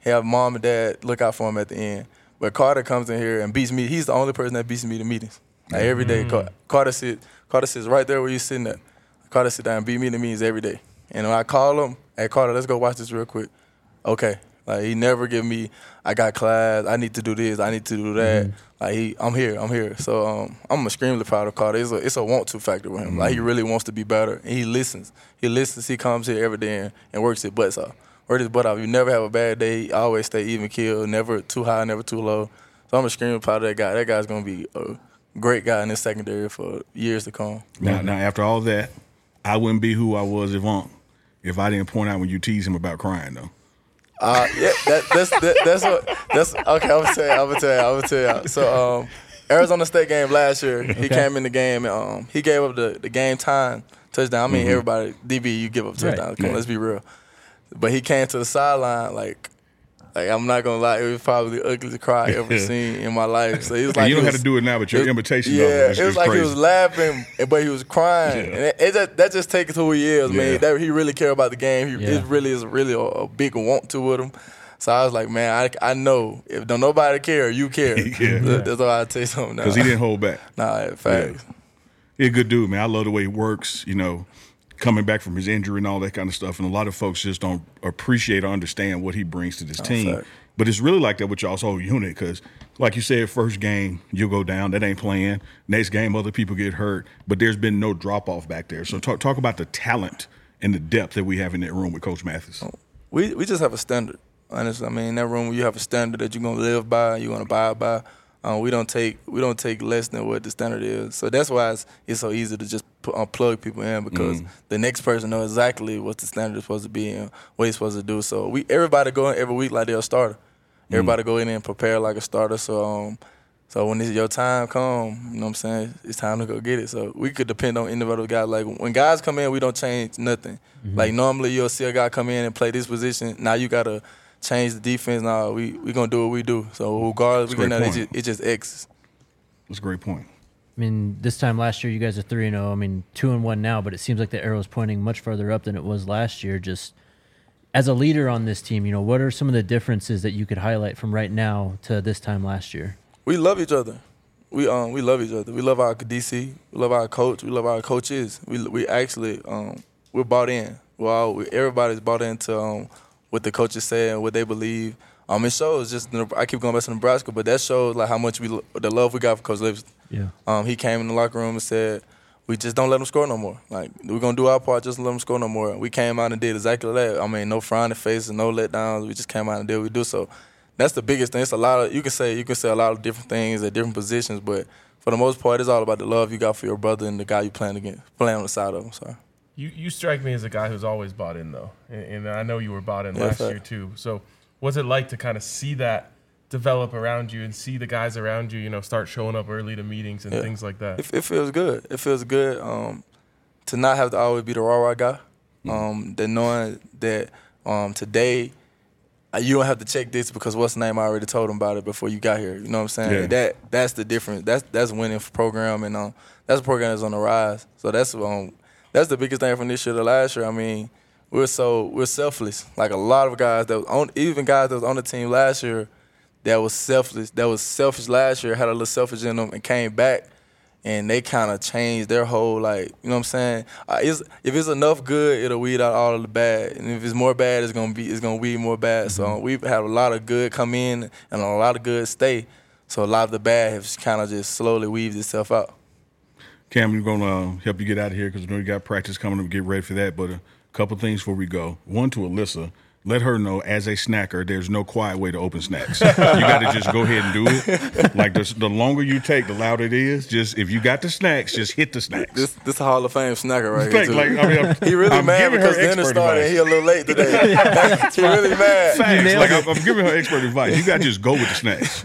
have mom and dad look out for him at the end. But Carter comes in here and beats me. He's the only person that beats me to meetings. Like every day, Carter sits right there where you're sitting at. Carter sit down and beat me to meetings every day. And when I call him, hey Carter, let's go watch this real quick. Okay. Like he never give me, I got class, I need to do this, I need to do that. Like I'm here. So I'm extremely proud of Carter. It's a want to factor with him. Like he really wants to be better, and he listens. He comes here every day and works his butt off. You never have a bad day. He always stay even keel, never too high, never too low. So I'm extremely proud of that guy. That guy's gonna be a great guy in this secondary for years to come. Now after all that, I wouldn't be who I was if I didn't point out when you tease him about crying though. Yeah, that's okay. I'm gonna tell you. So Arizona State game last year, he came in the game and he gave up the game time touchdown. I mean, everybody DB, you give up touchdowns. Come on, let's be real. But he came to the sideline like I'm not gonna lie, it was probably the ugliest cry I ever seen in my life. So he was like, you don't have to do it now, but your imitation of it was like crazy. He was laughing, but he was crying, and that just takes who he is, man. That he really care about the game. It really is a big want to with him. So I was like, man, I know if don't nobody care, you care. That's all I tell you something now. Because he didn't hold back. Nah, facts. He's a good dude, man. I love the way he works. Coming back from his injury and all that kind of stuff. And a lot of folks just don't appreciate or understand what he brings to this team. Fact. But it's really like that with y'all's whole unit because, like you said, first game, you'll go down. That ain't playing. Next game, other people get hurt. But there's been no drop-off back there. So talk about the talent and the depth that we have in that room with Coach Mathis. We just have a standard, honestly. I mean, in that room, you have a standard that you're going to live by, you're going to abide by. We don't take less than what the standard is. So that's why it's so easy to just plug people in because the next person knows exactly what the standard is supposed to be and what he's supposed to do. So everybody go in every week like they're a starter. Everybody go in and prepare like a starter. So when your time come, you know what I'm saying, it's time to go get it. So we could depend on individual guys. Like when guys come in, we don't change nothing. Like normally you'll see a guy come in and play this position. Now you got to change the defense. Now we going to do what we do. So regardless, it just X. That's a great point. I mean, this time last year, you guys are 3-0. I mean, 2-1 now, but it seems like the arrow is pointing much further up than it was last year. Just as a leader on this team, what are some of the differences that you could highlight from right now to this time last year? We love each other. We love each other. We love our DC. We love our coach. We love our coaches. We actually we're bought in. Everybody's bought into what the coaches say and what they believe. It shows just I keep going back to Nebraska, but that shows like how much the love we got for Coach Livingston. Yeah. He came in the locker room and said, "We just don't let them score no more. Like we're gonna do our part, just let them score no more." We came out and did exactly that. I mean, no frowning faces, no letdowns. We just came out and did what we do. So that's the biggest thing. It's a lot of you can say a lot of different things at different positions, but for the most part, it's all about the love you got for your brother and the guy you playing on the side of him. Sorry. You strike me as a guy who's always bought in, though. And I know you were bought in last year, too. So what's it like to kind of see that develop around you and see the guys around you, start showing up early to meetings and things like that? It feels good. It feels good to not have to always be the rah-rah guy. That knowing that today you don't have to check this because what's the name, I already told him about it before you got here. You know what I'm saying? Yeah. That's the difference. That's winning for program, and that's a program that's on the rise. So that's the biggest thing from this year to last year. I mean, we're selfless. Like a lot of guys even guys that was on the team last year that was selfish last year, had a little selfish in them and came back and they kind of changed their whole, like, you know what I'm saying? If it's enough good, it'll weed out all of the bad. And if it's more bad, it's gonna weed more bad. So we've had a lot of good come in and a lot of good stay. So a lot of the bad has kind of just slowly weaved itself out. Cam, we're going to help you get out of here because we know you got practice coming up. Get ready for that. But a couple things before we go. One, to Alyssa, let her know as a snacker, there's no quiet way to open snacks. You got to just go ahead and do it. Like the longer you take, the louder it is. Just if you got the snacks, just hit the snacks. This a Hall of Fame snacker right here. Like, he really I'm mad because the dinner started and he a little late today. He really mad. Facts. Like I'm giving her expert advice. You got to just go with the snacks.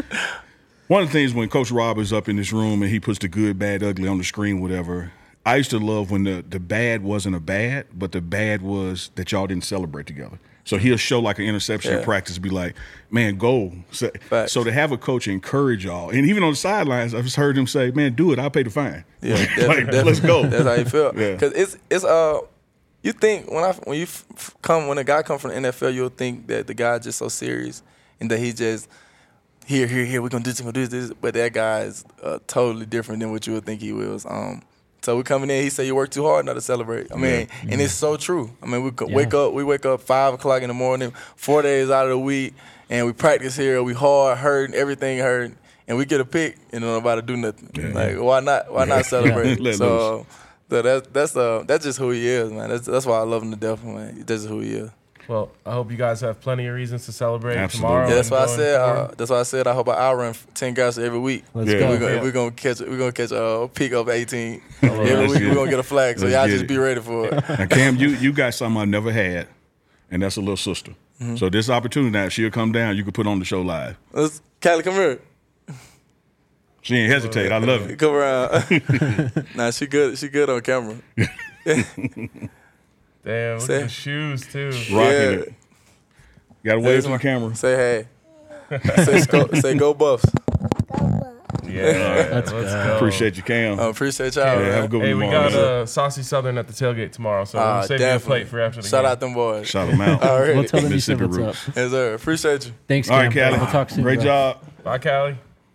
One of the things when Coach Rob is up in this room and he puts the good, bad, ugly on the screen, whatever, I used to love when the bad wasn't a bad, but the bad was that y'all didn't celebrate together. So he'll show like an interception in practice, be like, man, go. So to have a coach encourage y'all, and even on the sidelines, I've just heard him say, man, do it, I'll pay the fine. Yeah, let's go. That's how you feel. Because it's you think when a guy come from the NFL, you'll think that the guy just so serious and that he just here, we're gonna do this, we're gonna do this. But that guy is totally different than what you would think he was. So we coming in, he said you work too hard not to celebrate. I mean, and it's so true. I mean, we wake up 5 o'clock in the morning, 4 days out of the week, and we practice here. We hard, hurting, everything hurting, and we get a pick, and nobody do nothing. Yeah. Like why not? Why not celebrate? Let So that's just who he is, man. That's why I love him to death, man. That's just who he is. Well, I hope you guys have plenty of reasons to celebrate Absolutely. tomorrow. Yeah, that's why I and said. going forward. That's why I said I hope I run 10 guys every week. Let's Yeah. go. We're gonna catch a peak of 18 That's every week. good. We're gonna get a flag, so Let's y'all get just it. be ready for it. Now, Cam, you got something I never had, and that's a little sister. So this opportunity now, she'll come down. You can put on the show live. Callie, come here. She ain't hesitate. I love it. Come around. Nah, she good. She good on camera. Damn, look Say- at the shoes too. Rocking Yeah. it. Got to wave to the camera. Say hey. Say go Buffs. Yeah, Let's let's go. go. Appreciate you, Cam. Appreciate y'all. Yeah, man. have a good one Hey, we tomorrow. got Saucy Southern at the tailgate tomorrow, so we'll save you a definitely. plate for after the Shout game. out them boys. Shout them out. All right. We'll tell them you said Mississippi what's up. roots. Yes, sir. Appreciate you. Thanks, All Cam. right, Callie. We'll talk soon. Great bro. job. Bye, Callie.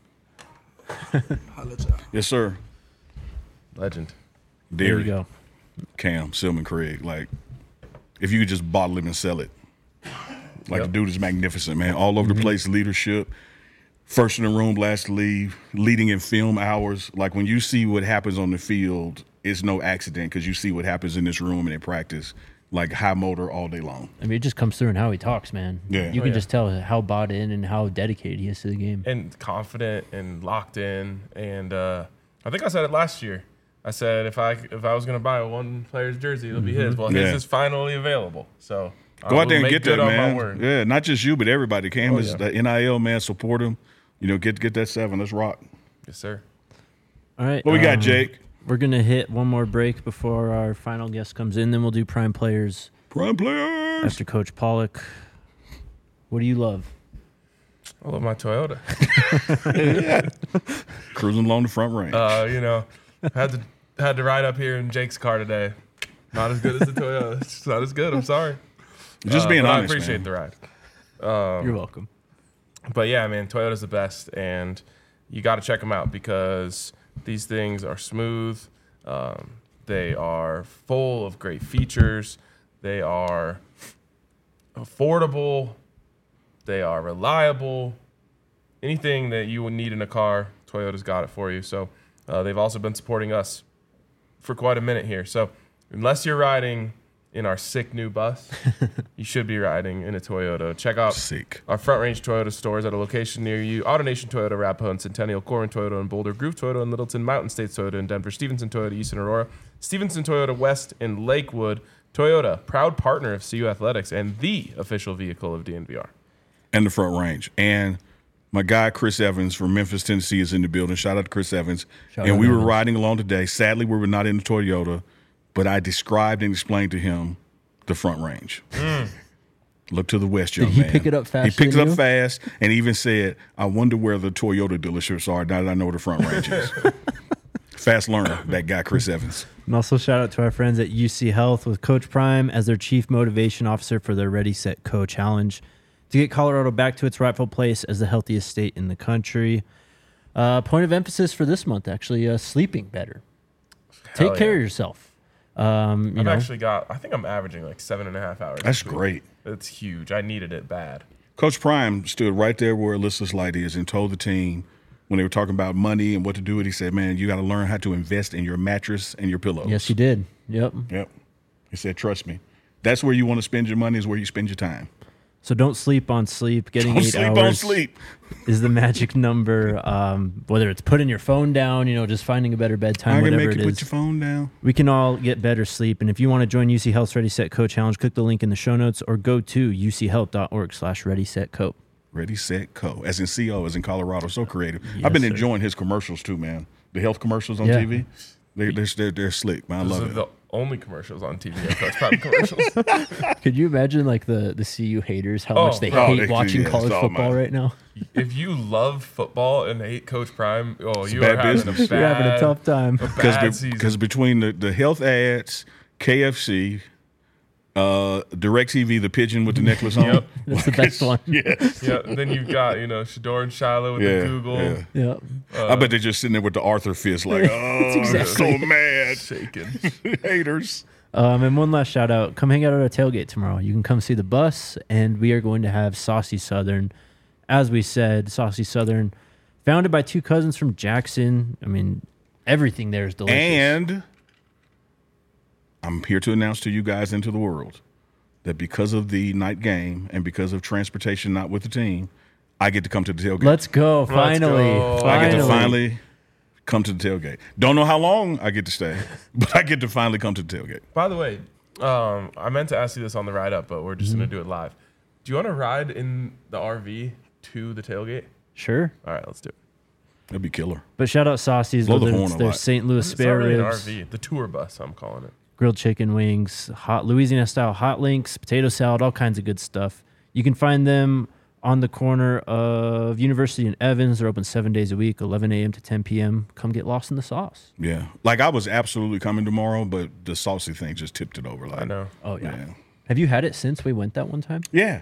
Yes, sir. Legend. There you Derry, go. Cam, Silman Craig. Like, if you could just bottle him and sell it. Like, the dude is magnificent, man. All over the place, leadership. First in the room, last to leave, leading in film hours. Like, when you see what happens on the field, it's no accident because you see what happens in this room and in practice. Like, high motor all day long. I mean, it just comes through in how he talks, man. Yeah. You Oh, can yeah. just tell how bought in and how dedicated he is to the game. And confident and locked in. And I think I said it last year. I said if I was going to buy one player's jersey, it'll be his. Well, his Yeah. is finally available. So Go out there and make get good that, on man. my word. Yeah, not just you, but everybody. Cam is yeah. the NIL, man. Support him. You know, get that 7. Let's rock. Yes, sir. All right. What we got, Jake? We're going to hit one more break before our final guest comes in. Then we'll do Prime Players Prime players. after Coach Pollock. What do you love? I love my Toyota. Cruising along the front range. You know, had to ride up here in Jake's car today. Not as good as the Toyota. It's not as good. I'm sorry. just being but honest, I appreciate man. the ride. You're welcome. But yeah, man, Toyota's the best, and you got to check them out because these things are smooth. They are full of great features. They are affordable. They are reliable. Anything that you would need in a car, Toyota's got it for you. So they've also been supporting us for quite a minute here. So unless you're riding in our sick new bus, you should be riding in a Toyota. Check out Sick. our Front Range Toyota stores at a location near you. AutoNation Toyota, Arapahoe and Centennial, Corin Toyota in Boulder, Groove Toyota in Littleton, Mountain States Toyota in Denver, Stevenson Toyota East in Aurora, Stevenson Toyota West in Lakewood. Toyota, proud partner of CU Athletics and the official vehicle of DNVR. And the front range. And my guy, Chris Evans from Memphis, Tennessee, is in the building. Shout out to Chris Evans. Shout and out we were Evans. riding along today. Sadly, we were not in the Toyota, but I described and explained to him the front range. Look to the west, young Did he man. pick it up faster He picked it than up you? fast and even said, I wonder where the Toyota dealerships are now that I know where the front range is. Fast learner, that guy, Chris Evans. And also shout out to our friends at UC Health with Coach Prime as their Chief Motivation Officer for their Ready, Set, Go challenge to get Colorado back to its rightful place as the healthiest state in the country. Point of emphasis for this month, actually, sleeping better. Hell Take care yeah. of yourself. You I've know, actually got, I think I'm averaging like 7.5 hours. That's this week. great. It's huge. I needed it bad. Coach Prime stood right there where Alyssa's light is and told the team when they were talking about money and what to do with it, he said, man, you got to learn how to invest in your mattress and your pillows. yes, he did. Yep. Yep. He said, trust me. That's where you want to spend your money is where you spend your time. So don't sleep on sleep. Getting Don't 8 sleep hours on sleep. is the magic number. Whether it's putting your phone down, just finding a better bedtime, I can whatever make it you is. put your phone down. We can all get better sleep. And if you want to join UC Health's Ready, Set, Go challenge, click the link in the show notes or go to uchealth.org/Ready, Set, Go. Ready, set, co. As in CO, as in Colorado. So creative. Yes, I've been sir. enjoying his commercials too, man. The health commercials on Yeah. TV. They're slick, man. I Those love are it. the only commercials on TV. Coach Prime commercials. Could you imagine like the CU haters, how much they hate they- watching yes, college oh, football man. right now? If you love football and hate Coach Prime, you bad are having business. You're having a tough time. bad season. Because between the health ads, KFC, DirecTV, the pigeon with the necklace on. Yep. That's the best one. Yeah. Yeah. Then you've got Shador and Shiloh with the Google. Yeah. Yeah. I bet they're just sitting there with the Arthur fist, like, oh, I'm so mad. Shaking. Haters. And one last shout out. Come hang out at our tailgate tomorrow. You can come see the bus, and we are going to have Saucy Southern. As we said, Saucy Southern, founded by two cousins from Jackson. I mean, everything there is delicious. And I'm here to announce to you guys into the world that because of the night game and because of transportation not with the team, I get to come to the tailgate. Let's go. Finally. go. I get to finally come to the tailgate. Don't know how long I get to stay, but I get to finally come to the tailgate. By the way, I meant to ask you this on the ride up, but we're just going to do it live. Do you want to ride in the RV to the tailgate? Sure. All right, let's do it. That'd be killer. But shout out Saucy's. Blow the whether horn it's a their lot. St. Louis It's spare not really ribs, an RV. The tour bus, I'm calling it. grilled chicken wings, hot Louisiana style hot links, potato salad, all kinds of good stuff. You can find them on the corner of University and Evans. They're open 7 days a week, 11 a.m. to 10 p.m. Come get lost in the sauce. Yeah. Like I was absolutely coming tomorrow, but the saucy thing just tipped it over. Like, I know. Oh, yeah. Yeah. Have you had it since we went that one time? Yeah.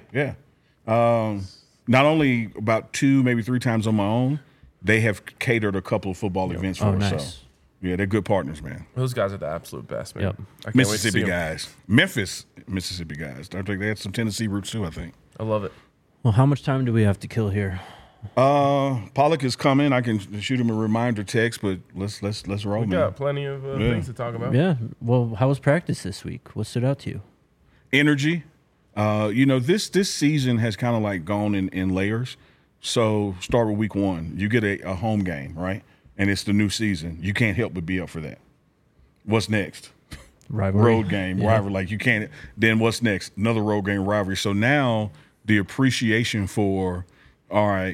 Not only about 2, maybe 3 times on my own, they have catered a couple of football events for Oh, us. nice. So, yeah, they're good partners, man. Those guys are the absolute best, man. Yep. I can't wait to see Mississippi 'em. guys. Memphis, Mississippi guys. I think they had some Tennessee roots too, I think. I love it. Well, how much time do we have to kill here? Pollock is coming. I can shoot him a reminder text, but let's roll, We man. got plenty of things to talk about. Yeah. Well, how was practice this week? What stood out to you? Energy. This season has kind of like gone in layers. So start with week 1. You get a home game, right? And it's the new season. You can't help but be up for that. What's next? Rivalry. Road game, Yeah. rivalry. Like you can't. Then what's next? Another road game rivalry. So now the appreciation for, all right,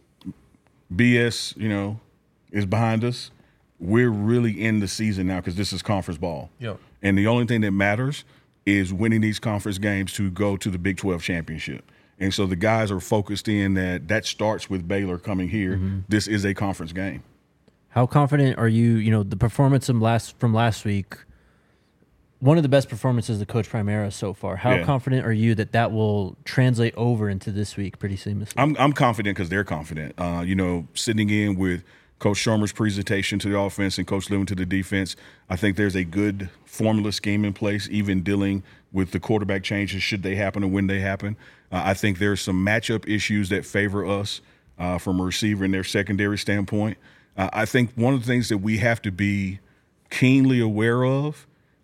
BS, is behind us. We're really in the season now because this is conference ball. Yep. And the only thing that matters is winning these conference games to go to the Big 12 championship. And so the guys are focused in that starts with Baylor coming here. Mm-hmm. This is a conference game. How confident are you? The performance from last week, one of the best performances of Coach Primera so far. How Yeah. confident are you that will translate over into this week pretty seamlessly? I'm confident because they're confident. Sitting in with Coach Shermer's presentation to the offense and Coach Lewin to the defense, I think there's a good formula scheme in place, even dealing with the quarterback changes should they happen or when they happen. I think there's some matchup issues that favor us from a receiver and their secondary standpoint. I think one of the things that we have to be keenly aware of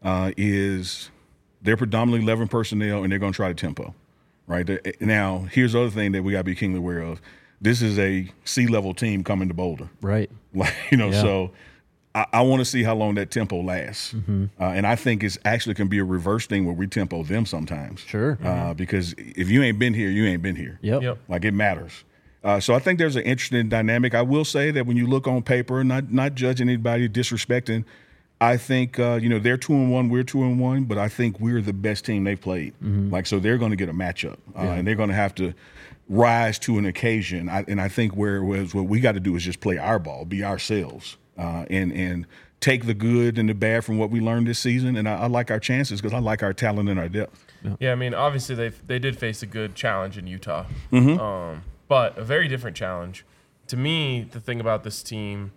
is they're predominantly 11 personnel and they're going to try to tempo. Right now, here's the other thing that we got to be keenly aware of. This is a C-level team coming to Boulder. Right. So I want to see how long that tempo lasts. And I think it's actually can be a reverse thing where we tempo them sometimes. Sure. Because if you ain't been here, you ain't been here. Yep. Like it matters. So I think there's an interesting dynamic. I will say that when you look on paper, not judging anybody, disrespecting, I think they're 2-1, we're 2-1, but I think we're the best team they've played. So they're going to get a matchup, and they're going to have to rise to an occasion. And I think what we got to do is just play our ball, be ourselves, and take the good and the bad from what we learned this season. And I like our chances because I like our talent and our depth. Yeah, I mean, obviously they did face a good challenge in Utah, but a very different challenge. To me, the thing about this team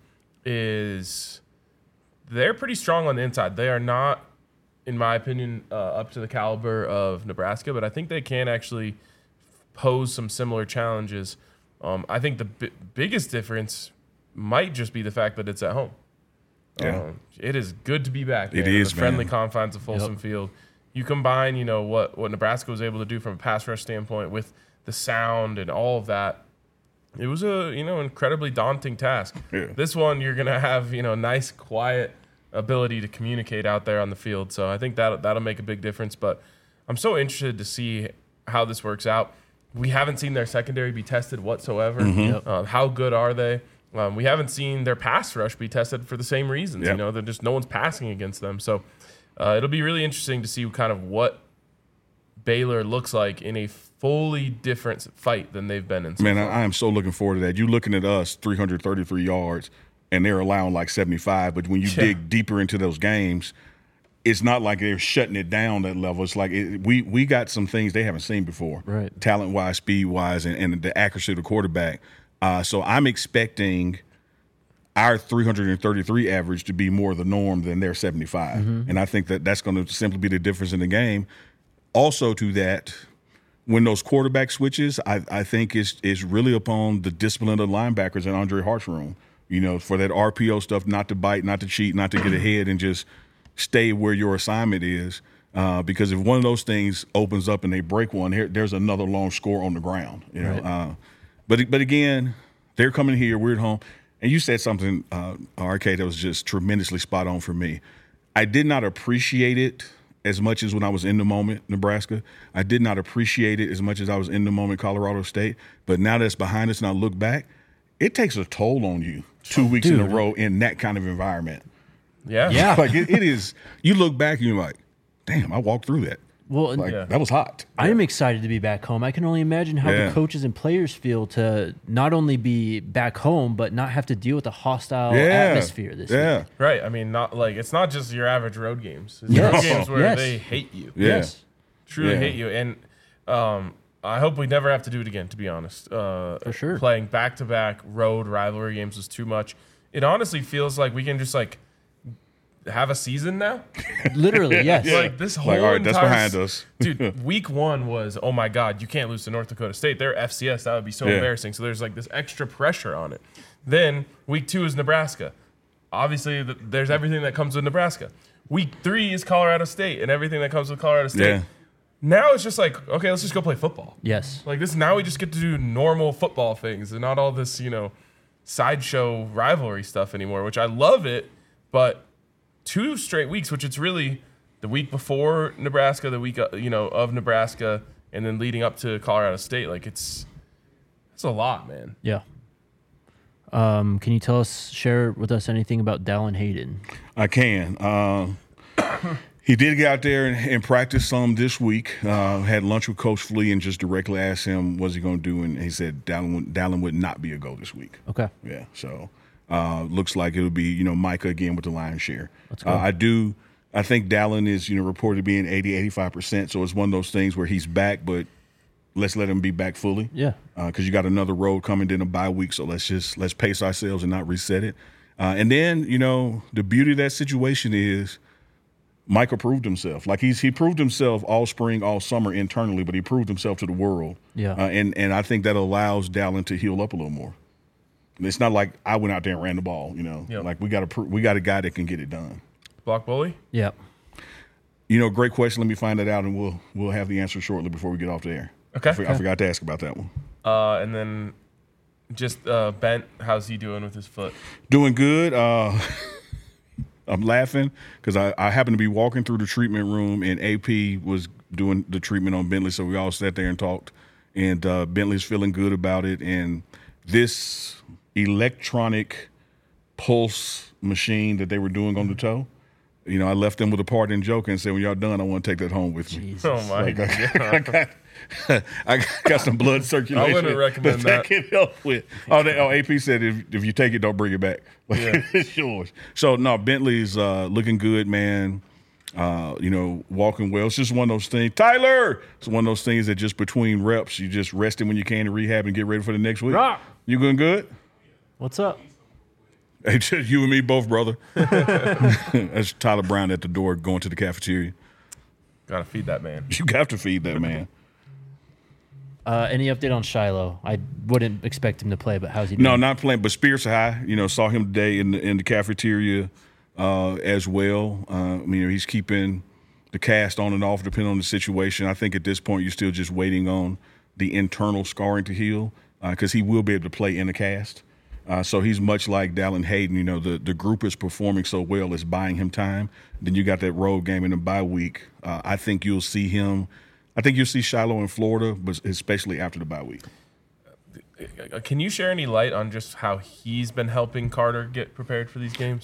is they're pretty strong on the inside. They are not, in my opinion, up to the caliber of Nebraska, but I think they can actually pose some similar challenges. I think the biggest difference might just be the fact that it's at home. Yeah. It is good to be back. It man, is, in the friendly man. confines of Folsom Field. You combine, what Nebraska was able to do from a pass rush standpoint with the sound and all of that. It was a incredibly daunting task. Yeah. This one you're gonna have nice quiet ability to communicate out there on the field. So I think that'll make a big difference. But I'm so interested to see how this works out. We haven't seen their secondary be tested whatsoever. How good are they? We haven't seen their pass rush be tested for the same reasons. Yep. They're just no one's passing against them. So it'll be really interesting to see kind of what Baylor looks like in a fully different fight than they've been in. So Man, far. I am so looking forward to that. You're looking at us, 333 yards, and they're allowing like 75. But when you dig deeper into those games, it's not like they're shutting it down that level. It's like we got some things they haven't seen before, right? Talent-wise, speed-wise, and the accuracy of the quarterback. So I'm expecting our 333 average to be more the norm than their 75. And I think that's going to simply be the difference in the game. Also to that, when those quarterback switches, I think is really upon the discipline of the linebackers and Andre Hart's room, for that RPO stuff, not to bite, not to cheat, not to get ahead, and just stay where your assignment is. Because if one of those things opens up and they break one, there's another long score on the ground. Right. But again, they're coming here, we're at home. And you said something, RK, that was just tremendously spot on for me. I did not appreciate it as much as when I was in the moment, Nebraska. I did not appreciate it as much as I was in the moment, Colorado State. But now that's behind us and I look back, it takes a toll on you 2 weeks in a row in that kind of environment. Yeah. Like it is, you look back and you're like, damn, I walked through that. Well, that was hot. I am excited to be back home. I can only imagine how the coaches and players feel to not only be back home, but not have to deal with a hostile atmosphere this week. Right. I mean, it's not just your average road games. It's road games where they hate you. Yes. Truly hate you. And I hope we never have to do it again, to be honest. For sure. Playing back-to-back road rivalry games was too much. It honestly feels like we can just have a season now. Literally, yes. Like this whole all right, that's behind us. Dude, week 1 was, oh my God, you can't lose to North Dakota State. They're FCS. That would be so embarrassing. So there's this extra pressure on it. Then week 2 is Nebraska. Obviously, there's everything that comes with Nebraska. Week 3 is Colorado State and everything that comes with Colorado State. Yeah. Now it's just okay, let's just go play football. Yes. Now we just get to do normal football things and not all this, sideshow rivalry stuff anymore, which I love it, but 2 straight weeks, which it's really the week before Nebraska, the week of Nebraska, and then leading up to Colorado State. It's a lot, man. Yeah. Can you share with us anything about Dallin Hayden? I can. He did get out there and practice some this week. Had lunch with Coach Flea and just directly asked him what's he going to do, and he said Dallin would not be a go this week. Okay. Yeah. So looks like it'll be Micah again with the lion's share. Let's go. I think Dallin is reported being 80-85%. So it's one of those things where he's back, but let's let him be back fully. Yeah. Because you got another road coming, then a bye week. So let's pace ourselves and not reset it. And then the beauty of that situation is Micah proved himself. He proved himself all spring, all summer internally, but he proved himself to the world. Yeah. And I think that allows Dallin to heal up a little more. It's not like I went out there and ran the ball. Yep. We got a guy that can get it done. Block bully? Yeah. Great question. Let me find that out, and we'll have the answer shortly before we get off the air. Okay. I forgot to ask about that one. And then just Bent, how's he doing with his foot? Doing good. I'm laughing because I happened to be walking through the treatment room, and AP was doing the treatment on Bentley, so we all sat there and talked. And Bentley's feeling good about it. And this electronic pulse machine that they were doing on the toe, I left them with a parting joke and said, when y'all done, I want to take that home with me. Jesus. Oh, my God. I got some blood circulation. I wouldn't recommend that. Can help with. AP said if you take it, don't bring it back. It's yours. So no, Bentley's looking good, man. Walking well. It's just one of those things. Tyler, it's one of those things that just between reps, you just rest it when you can to rehab and get ready for the next week. Rock. You doing good? What's up? Hey, just you and me both, brother. That's Tyler Brown at the door going to the cafeteria. Gotta feed that man. You have to feed that man. Any update on Shiloh? I wouldn't expect him to play, but how's he doing? No, not playing, but spirits are high. Saw him today in the cafeteria as well. He's keeping the cast on and off depending on the situation. I think at this point you're still just waiting on the internal scarring to heal because he will be able to play in the cast. So he's much like Dallin Hayden. The group is performing so well, it's buying him time. Then you got that road game in the bye week. I think you'll see him. I think you'll see Shiloh in Florida, but especially after the bye week. Can you share any light on just how he's been helping Carter get prepared for these games?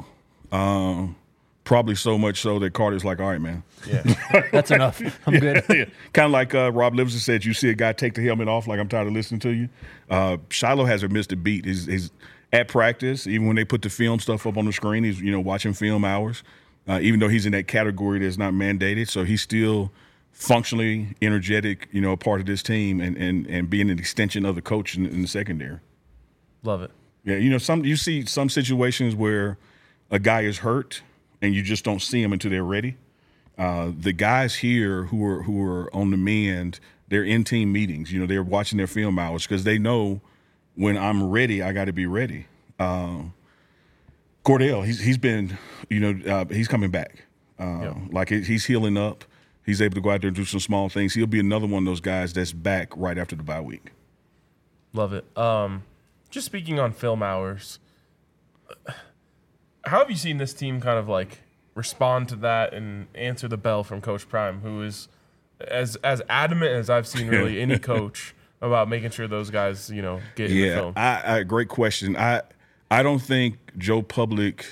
Probably so much so that Carter's like, all right, man. Yeah. That's enough. I'm good. Yeah. Kind of like Rob Livingston said, you see a guy take the helmet off like I'm tired of listening to you. Shiloh hasn't missed a beat. He's at practice, even when they put the film stuff up on the screen, he's watching film hours. even though he's in that category that's not mandated. So he's still functionally energetic, a part of this team and being an extension of the coach in the secondary. Love it. Yeah, you see some situations where a guy is hurt and you just don't see him until they're ready. The guys here who are on the mend, they're in team meetings. They're watching their film hours because they know when I'm ready, I got to be ready. Cordell, he's been, he's coming back. Like he's healing up. He's able to go out there and do some small things. He'll be another one of those guys that's back right after the bye week. Love it. Just speaking on film hours, how have you seen this team kind of like respond to that and answer the bell from Coach Prime, who is as adamant as I've seen really any coach about making sure those guys, get in the film? Great question. I don't think Joe Public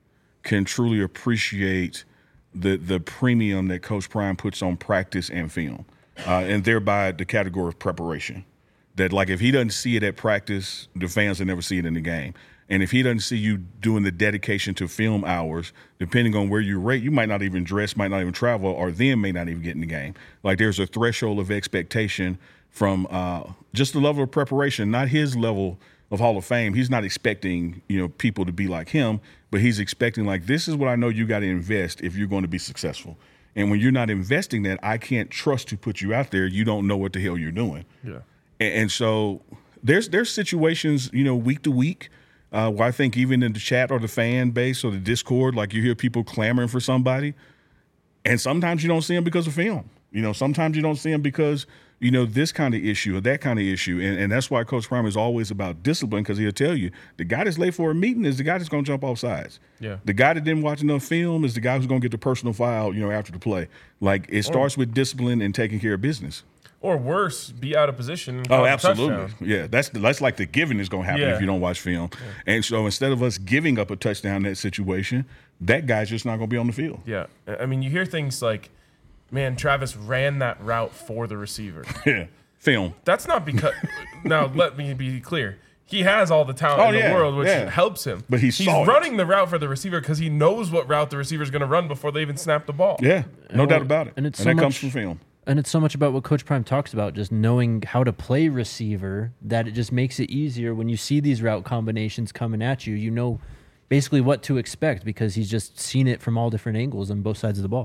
can truly appreciate the premium that Coach Prime puts on practice and film, and thereby the category of preparation. That, like, if he doesn't see it at practice, the fans will never see it in the game. And if he doesn't see you doing the dedication to film hours, depending on where you rate, you might not even dress, might not even travel, or then may not even get in the game. Like, there's a threshold of expectation from just the level of preparation, not his level of Hall of Fame. He's not expecting, people to be like him, but he's expecting, like, this is what I know you got to invest if you're going to be successful. And when you're not investing that, I can't trust to put you out there. You don't know what the hell you're doing. Yeah. And so there's situations, week to week, where I think even in the chat or the fan base or the Discord, like, you hear people clamoring for somebody, and sometimes you don't see them because of film. Sometimes you don't see them because, this kind of issue or that kind of issue. And that's why Coach Prime is always about discipline, because he'll tell you the guy that's late for a meeting is the guy that's going to jump off sides. Yeah. The guy that didn't watch enough film is the guy who's going to get the personal foul, after the play. Like, it starts with discipline and taking care of business. Or worse, be out of position. And Oh, cause a absolutely. touchdown. Yeah, that's like the giving is going to happen if you don't watch film. Yeah. And so instead of us giving up a touchdown in that situation, that guy's just not going to be on the field. Yeah. I mean, you hear things like, man, Travis ran that route for the receiver. Yeah, film. That's not because – now, let me be clear. He has all the talent in the world, which helps him. But he's running the route for the receiver because he knows what route the receiver is going to run before they even snap the ball. Yeah, no doubt about it. And that comes from film. And it's so much about what Coach Prime talks about, just knowing how to play receiver, that it just makes it easier when you see these route combinations coming at you. You know basically what to expect because he's just seen it from all different angles on both sides of the ball.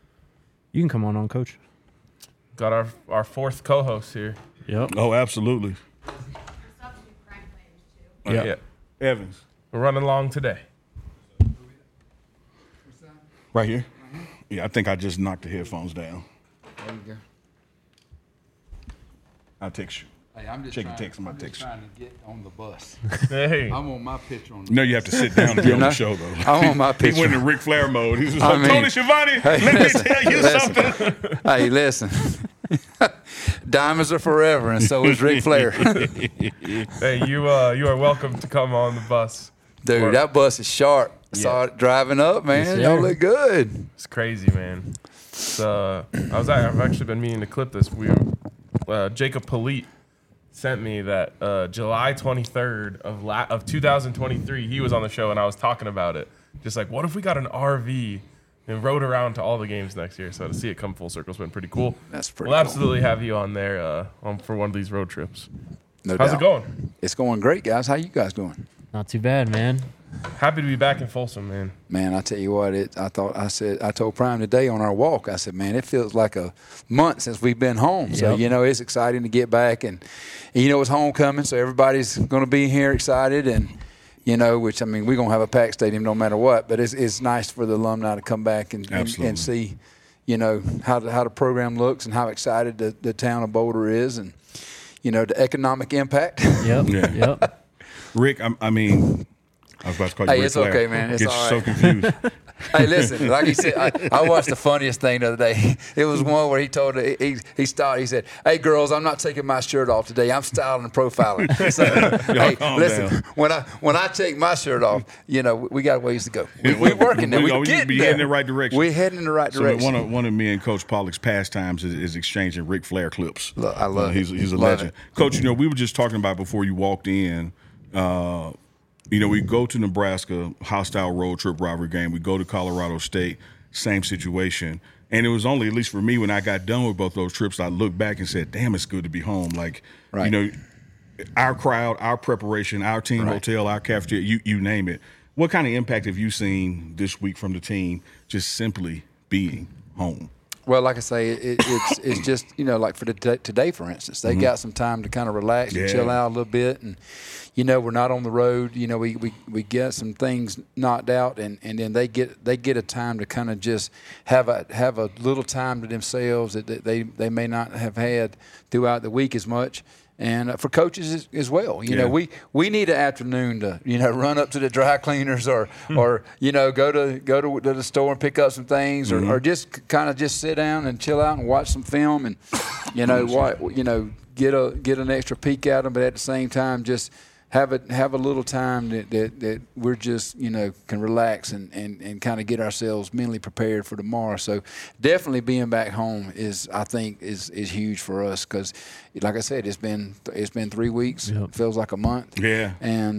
You can come on, Coach. Got our fourth co-host here. Yep. Oh, absolutely. Yeah. Evans. We're running along today. Right here? Yeah, I think I just knocked the headphones down. There you go. I'll text you. Hey, I'm just Check your trying, text on my I'm just text. trying to get on the bus. Hey. I'm on my picture on the No, you have to sit down to be on the know? show, though. I'm on my He went picture. in Ric Flair mode. He's just I like, mean, Tony Schiavone, let me tell you something. Hey, listen. Diamonds are forever, and so is Ric Flair. Hey, you are welcome to come on the bus. Dude, that bus is sharp. I saw it driving up, man. Yes, Y'all sir. look good. It's crazy, man. I've actually been meaning to clip this. Jacob Polite sent me that July 23rd of 2023, he was on the show and I was talking about it. Just like, what if we got an RV and rode around to all the games next year? So to see it come full circle has been pretty cool. That's pretty We'll cool. absolutely have you on there for one of these road trips. No How's doubt. it going? It's going great, guys. How you guys doing? Not too bad, man. Happy to be back in Folsom, man. Man, I tell you what, I told Prime today on our walk, I said, man, it feels like a month since we've been home. So, Yep. it's exciting to get back. And it's homecoming, so everybody's going to be here excited. And, which, I mean, we're going to have a packed stadium no matter what. But it's nice for the alumni to come back and see, how the program looks and how excited the town of Boulder is and, the economic impact. Yep. Yeah. Yep. Rick, I was about to call you Hey, Ric it's Flair. okay, man. It's Get all you right. so confused. Hey, listen, like he said, I watched the funniest thing the other day. It was one where he told he stopped. He said, "Hey, girls, I'm not taking my shirt off today. I'm styling and profiling." So, hey, calm listen, down. when I take my shirt off, we got ways to go. We're working there. We're getting be there. heading in the right direction. We're heading in the right So direction. one of me and Coach Pollock's pastimes is exchanging Ric Flair clips. Look, I love it. He's a Love legend. it. Coach, we were just talking about before you walked in. we go to Nebraska, hostile road trip rivalry game. We go to Colorado State, same situation. And it was only, at least for me, when I got done with both those trips, I looked back and said, damn, it's good to be home. Like, our crowd, our preparation, our team hotel, our cafeteria, you name it. What kind of impact have you seen this week from the team just simply being home? Well, like I say, it's just, like for today, for instance, they got some time to kind of relax and chill out a little bit. And, we're not on the road. We get some things knocked out, and then they get a time to kind of just have a little time to themselves that they may not have had throughout the week as much. And for coaches as well, we need an afternoon to run up to the dry cleaners or go to the store and pick up some things or just kind of just sit down and chill out and watch some film and get an extra peek at them, but at the same time just have a little time that we're just can relax and kind of get ourselves mentally prepared for tomorrow. So definitely being back home is huge for us because, like I said, it's been 3 weeks. Yep. It feels like a month. Yeah. And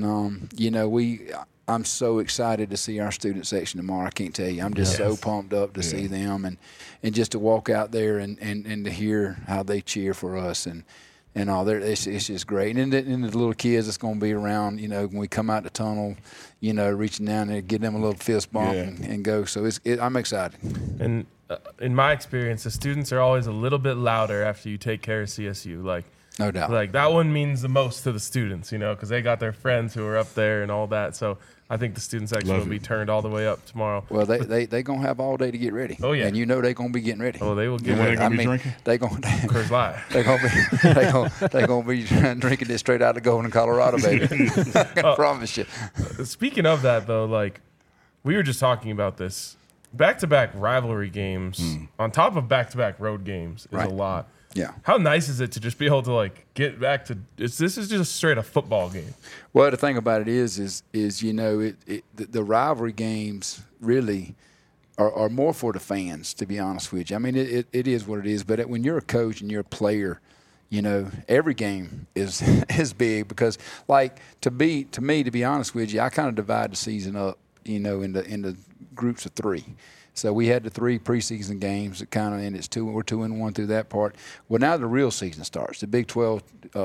I'm so excited to see our student section tomorrow. I can't tell you. I'm just so pumped up to see them and just to walk out there and to hear how they cheer for us and all there, it's just great. And then the little kids that's going to be around, when we come out the tunnel, reaching down there, give them a little fist bump and go. So I'm excited. And in my experience, the students are always a little bit louder after you take care of CSU. Like, no doubt. Like that one means the most to the students, because they got their friends who are up there and all that. So I think the student section will be turned all the way up tomorrow. Well, they gonna have all day to get ready. Oh yeah, and they're gonna be getting ready. Oh, they will get ready. They gonna be drinking. They gonna Coors Light. They gonna be drinking it straight out of Golden, Colorado, baby. I promise you. Speaking of that, though, like we were just talking about this, back-to-back rivalry games on top of back-to-back road games is a lot. Yeah. How nice is it to just be able to get back to this is just straight a football game. Well, the thing about it is the rivalry games really are more for the fans, to be honest with you. I mean, it is what it is. But when you're a coach and you're a player, every game is big because, to be honest with you, I kind of divide the season up, into groups of 3. So we had the 3 preseason games that kind of, and we're 2-1 through that part. Well, now the real season starts. The Big 12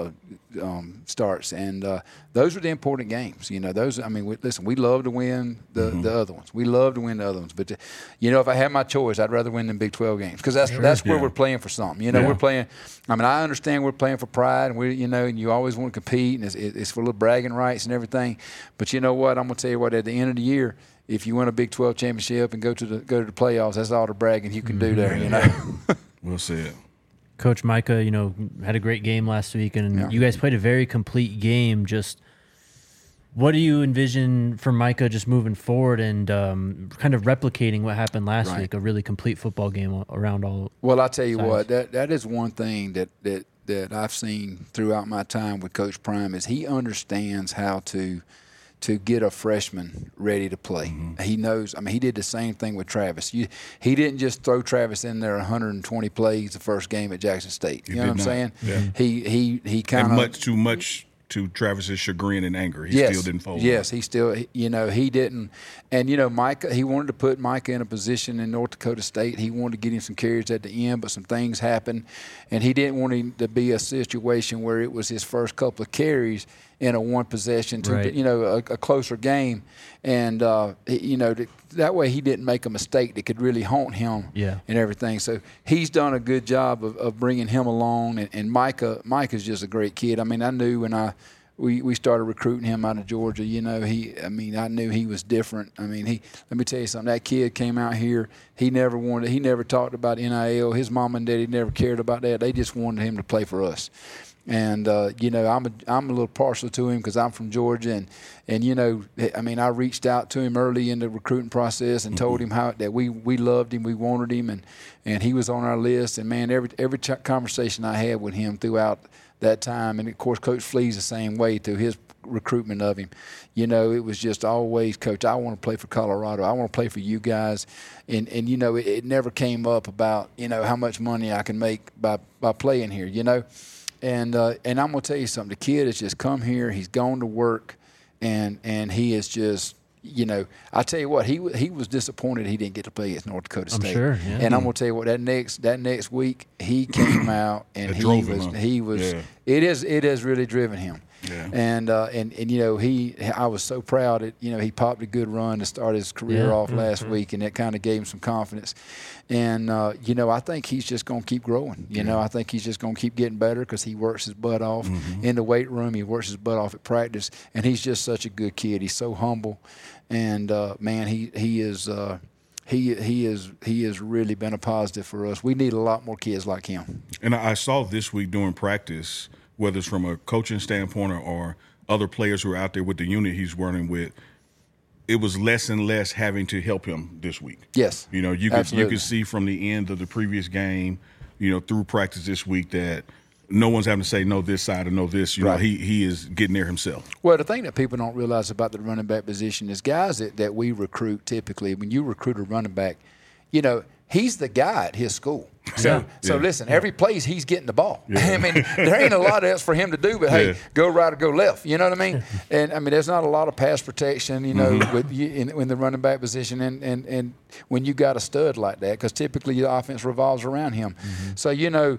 starts, and those are the important games. Those. I mean, listen, we love to win the other ones. We love to win the other ones, but if I had my choice, I'd rather win them Big 12 games because that's where we're playing for something. We're playing. I mean, I understand we're playing for pride, and and you always want to compete, and it's for little bragging rights and everything. But you know what? I'm gonna tell you what. At the end of the year, if you win a Big 12 championship and go to the playoffs, that's all the bragging you can do there. We'll see it. Coach Micah, had a great game last week, and you guys played a very complete game. Just what do you envision for Micah just moving forward and kind of replicating what happened last week, a really complete football game around all Well, I'll tell you what, that is one thing that I've seen throughout my time with Coach Prime is he understands how to get a freshman ready to play. He knows. I mean, he did the same thing with Travis. He didn't just throw Travis in there 120 plays the first game at Jackson State. You know what I'm saying? Yeah. He kind of much too much to Travis's chagrin and anger. He still didn't fold. Yes, he still. He didn't. And Micah. He wanted to put Micah in a position in North Dakota State. He wanted to get him some carries at the end, but some things happened, and he didn't want him to be a situation where it was his first couple of carries in a one possession to a closer game, and that way he didn't make a mistake that could really haunt him and everything. So he's done a good job of bringing him along, and Micah's just a great kid. I mean, I knew when we started recruiting him out of Georgia, I knew he was different. I mean, let me tell you something. That kid came out here. He never talked about NIL. His mom and daddy never cared about that. They just wanted him to play for us. And I'm a little partial to him because I'm from Georgia, and I reached out to him early in the recruiting process and told him that we loved him, we wanted him, and he was on our list. And man, every conversation I had with him throughout that time, and of course Coach Flea's the same way through his recruitment of him. It was just always, Coach, I want to play for Colorado. I want to play for you guys. And it never came up about how much money I can make by playing here. And I'm going to tell you something. The kid has just come here. He's gone to work, and he is just. You know, I tell you what, he was disappointed he didn't get to play against North Dakota State. I'm sure, yeah. And I'm gonna tell you what, that next week he came out and he was it has really driven him. Yeah. And you know, I was so proud that, you know, he popped a good run to start his career off last week, and that kind of gave him some confidence. And you know, I think he's just going to keep growing. You know, I think he's just going to keep getting better because he works his butt off in the weight room. He works his butt off at practice, and he's just such a good kid. He's so humble, and man, he has really been a positive for us. We need a lot more kids like him. And I saw this week during practice, whether it's from a coaching standpoint or other players who are out there with the unit he's working with, it was less and less having to help him this week. Yes. You know, you could see from the end of the previous game, you know, through practice this week that no one's having to say no this side or no this. You know, he is getting there himself. Well, the thing that people don't realize about the running back position is guys that we recruit typically, when you recruit a running back, you know, he's the guy at his school. So listen, every place he's getting the ball. I mean, there ain't a lot else for him to do, but hey, go right or go left. You know what I mean? And I mean, there's not a lot of pass protection, you know, with in the running back position, and when you got a stud like that, because typically the offense revolves around him. So you know,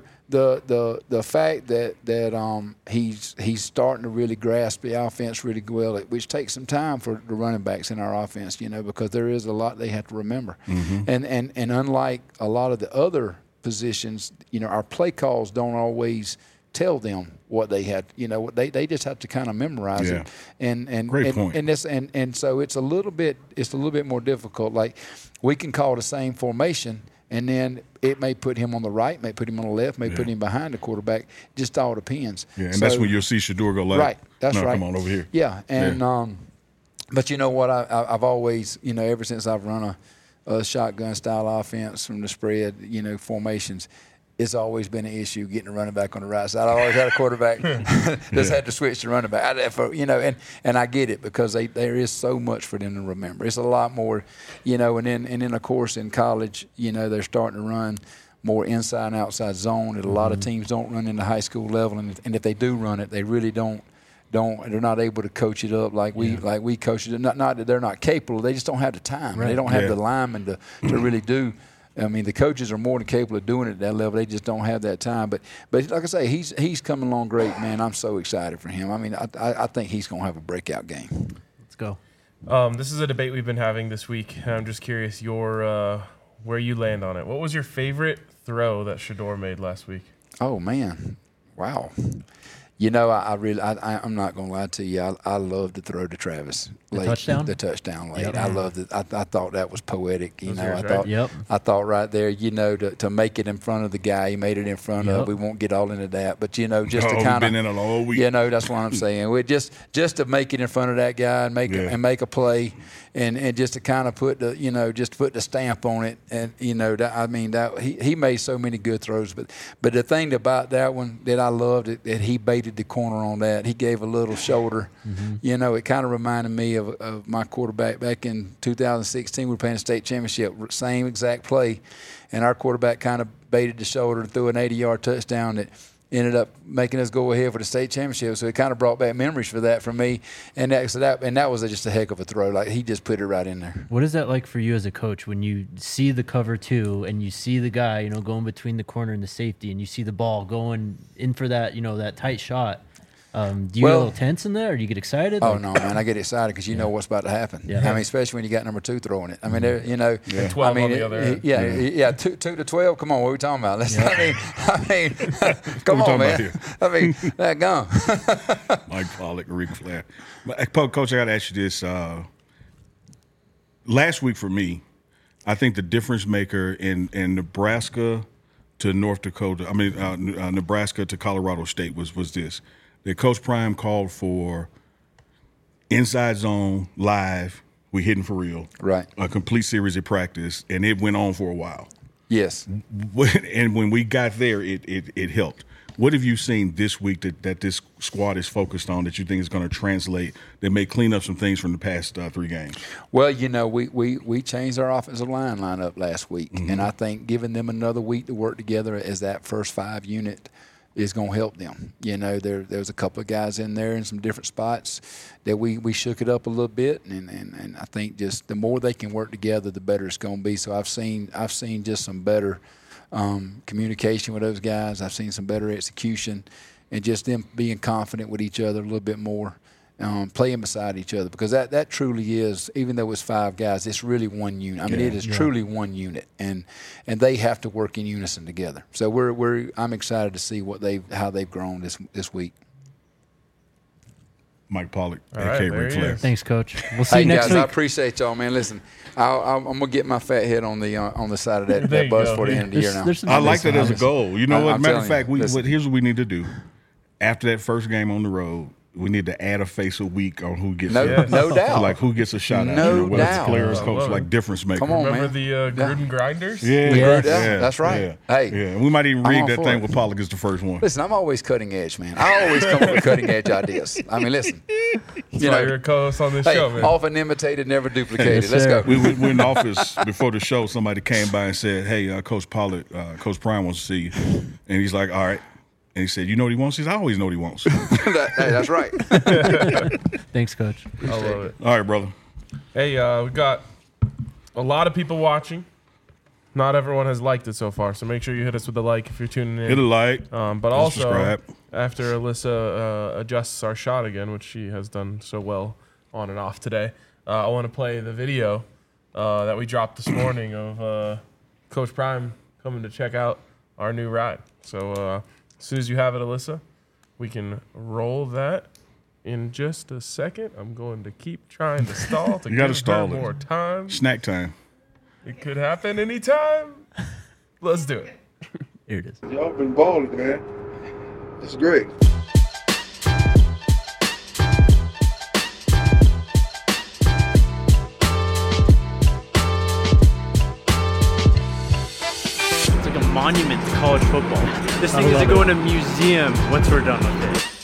the fact that he's starting to really grasp the offense really well, which takes some time for the running backs in our offense, you know, because there is a lot they have to remember. And unlike a lot of the other positions, you know, our play calls don't always tell them what they had. You know, they just have to kind of memorize it. And Great point. And so it's a little bit more difficult. Like we can call the same formation, and then it may put him on the right, may put him on the left, may put him behind the quarterback. Just all depends. Yeah, and that's when you'll see Shedeur go left. Right, that's right. Come on over here. Yeah, and but you know what? I've always, you know, ever since I've run a shotgun style offense from the spread, you know, formations, it's always been an issue getting a running back on the right side. I've always had a quarterback just had to switch to running back. You know, and I get it because there is so much for them to remember. It's a lot more, you know, and then of course in college, you know, they're starting to run more inside and outside zone that a lot of teams don't run in the high school level, and if they do run it, they really they're not able to coach it up like we coach it. Not that they're not capable, they just don't have the time. Right. They don't have the linemen to really do. I mean, the coaches are more than capable of doing it at that level. They just don't have that time. But like I say, he's coming along great, man. I'm so excited for him. I mean, I think he's going to have a breakout game. Let's go. This is a debate we've been having this week. I'm just curious where you land on it. What was your favorite throw that Shedeur made last week? Oh man, wow. You know, I'm not going to lie to you. I love to throw to Travis late. The touchdown late. Yep. I loved it. I thought that was poetic. You know, I thought right there, you know, to make it in front of the guy, he made it in front of. We won't get all into that, but you know, just to kind of been in it all week. You know, that's what I'm saying. We just to make it in front of that guy and make a play, and just to kind of put the stamp on it, and you know, he made so many good throws, but the thing about that one that I loved that he baited the corner on that. He gave a little shoulder. You know, it kind of reminded me of my quarterback back in 2016. We were playing a state championship, same exact play, and our quarterback kind of baited the shoulder and threw an 80-yard touchdown that ended up making us go ahead for the state championship. So it kind of brought back memories for that for me, and that was just a heck of a throw. Like he just put it right in there. What is that like for you as a coach when you see the cover two and you see the guy, you know, going between the corner and the safety, and you see the ball going in for that, you know, that tight shot? Do you get a little tense in there, or do you get excited? Oh, no, man. I get excited because you know what's about to happen. Yeah. I mean, especially when you got number 2 throwing it. I mean, you know. Yeah. 12 on the other end. Yeah, 2 to 12. Come on, what are we talking about? I mean, come on, man. I mean, that gone. Mike Pollock, Ric Flair. Coach, I got to ask you this. Last week for me, I think the difference maker in Nebraska to North Dakota, Nebraska to Colorado State was this. That Coach Prime called for inside zone, live, we hitting for real. Right. A complete series of practice, and it went on for a while. Yes. And when we got there, it helped. What have you seen this week that this squad is focused on that you think is going to translate, that may clean up some things from the past 3 games? Well, you know, we changed our offensive lineup last week, and I think giving them another week to work together as that first 5 unit is going to help them. You know, there's a couple of guys in there in some different spots that we shook it up a little bit, and I think just the more they can work together, the better it's going to be. So I've seen just some better communication with those guys. I've seen some better execution, and just them being confident with each other a little bit more. Playing beside each other, because that truly is, even though it's 5 guys, it's really one unit. I mean, it is truly one unit, and they have to work in unison together. So I'm excited to see how they've grown this week. Mike Pollock, All right, a.k.a. Ric Flair. Thanks, Coach. We'll see you next guys, week. I appreciate y'all, man. Listen, I'm gonna get my fat head on the side of that bus for the end of the year. Now I like that as a goal. You know what? I'm Matter of telling fact, you, here's what we need to do. After that first game on the road, we need to add a face a week on who gets no doubt, like who gets a shot out. No whether doubt. it's players, coach, like difference maker. Come on, Remember man. the Gruden grinders? Yeah, Yes. Yeah, that's right. Yeah. Hey, yeah. We might even I'm rig all that for thing it. with Pollock as the first one. Listen, I'm always cutting edge, man. I always come up with cutting edge ideas. I mean, listen, That's why you're a co-host on this show, man. often imitated, never duplicated. Yes, Let's sir. go. We were in the office before the show. Somebody came by and said, "Hey, Coach Pollock, Coach Prime wants to see you," and he's like, "All right." And he said, "You know what he wants?" He said, "I always know what he wants." Hey, that's right. Thanks, Coach. I love it. All right, brother. Hey, we got a lot of people watching. Not everyone has liked it so far, so make sure you hit us with a like if you're tuning in. Hit a like. But also, subscribe. after Alyssa adjusts our shot again, which she has done so well on and off today, I want to play the video that we dropped this morning of Coach Prime coming to check out our new ride. So as soon as you have it, Alyssa, we can roll that in just a second. I'm going to keep trying to stall to You gotta give stall her it. more time. Snack time. It could happen anytime. Let's do it. Here it is. Y'all been balling, man. It's great. It's like a monument to college football. This thing is to go in a museum once we're done with it.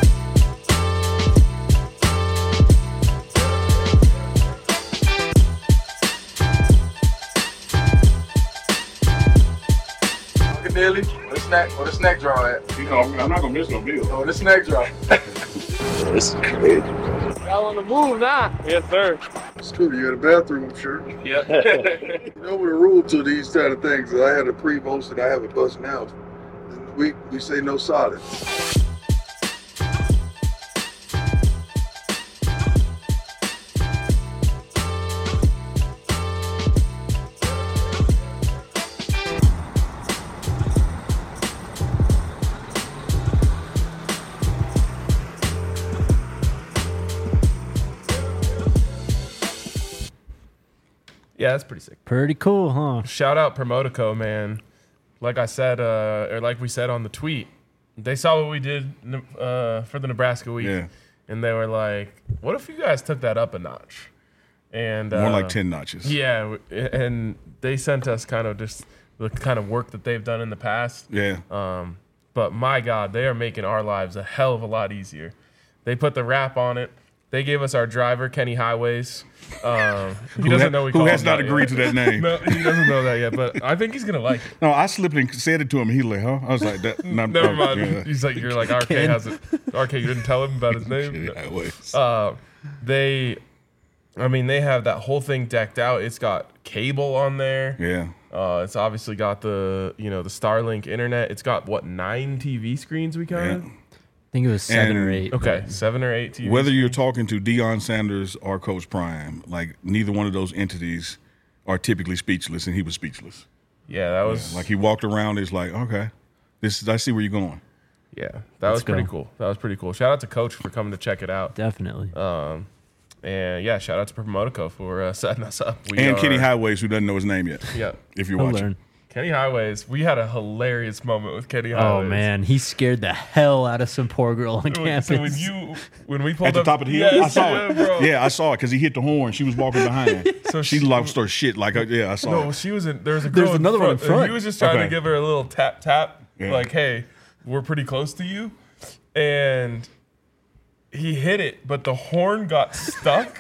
Nearly. Where the snack drawer at? You know, I'm not gonna miss no meal. Oh, the snack drawer. This is crazy. Y'all on the move now. Yes, sir. It's good. You had a bathroom, I'm sure. Yeah. You know what the rule to these kind of things is I had a pre-post and I have a bus now. We say no solid. Yeah, that's pretty sick. Pretty cool, huh? Shout out Promotico, man. Like I said, or like we said on the tweet, they saw what we did for the Nebraska week, Yeah. and they were like, "What if you guys took that up a notch?" And More like 10 notches. Yeah, and they sent us kind of just the kind of work that they've done in the past. Yeah. But my God, they are making our lives a hell of a lot easier. They put the wrap on it. They gave us our driver, Kenny Highways. He doesn't know we who call has him not that agreed yet. to that name. No, he doesn't know that yet, but I think he's gonna like it. No, I slipped and said it to him. He like, huh? I was like, that. Never mind. Yeah. He's like, you're like, RK has it. RK, you didn't tell him about his name. Yeah, wait. They have that whole thing decked out. It's got cable on there. Yeah. It's obviously got the the Starlink internet. It's got 9 TV screens we counted. Yeah. I think it was 7 or And- 8. Okay, 7 or 8 TV. Whether you're talking to Deion Sanders or Coach Prime, like neither one of those entities are typically speechless, and he was speechless. Yeah, that was Like he walked around, it's like, okay, I see where you're going. Yeah, that was pretty go. cool. That was pretty cool. Shout out to Coach for coming to check it out. Definitely. And yeah, shout out to Promotico for setting us up. And Kenny Highways, who doesn't know his name yet. Yeah. If you're I'll watching. learn. Kenny Highways. We had a hilarious moment with Kenny Highways. Oh, man. He scared the hell out of some poor girl on campus. So when we pulled At the up, top of the hill, I Yes, saw yeah, it. bro. Yeah, I saw it because he hit the horn. She was walking behind. So she she- lost her shit. Like, yeah, I saw No, it. she was in. There was a girl. There's another one in and front. He was just trying Okay. to give her a little tap, Yeah. like, "Hey, we're pretty close to you," and he hit it, but the horn got stuck.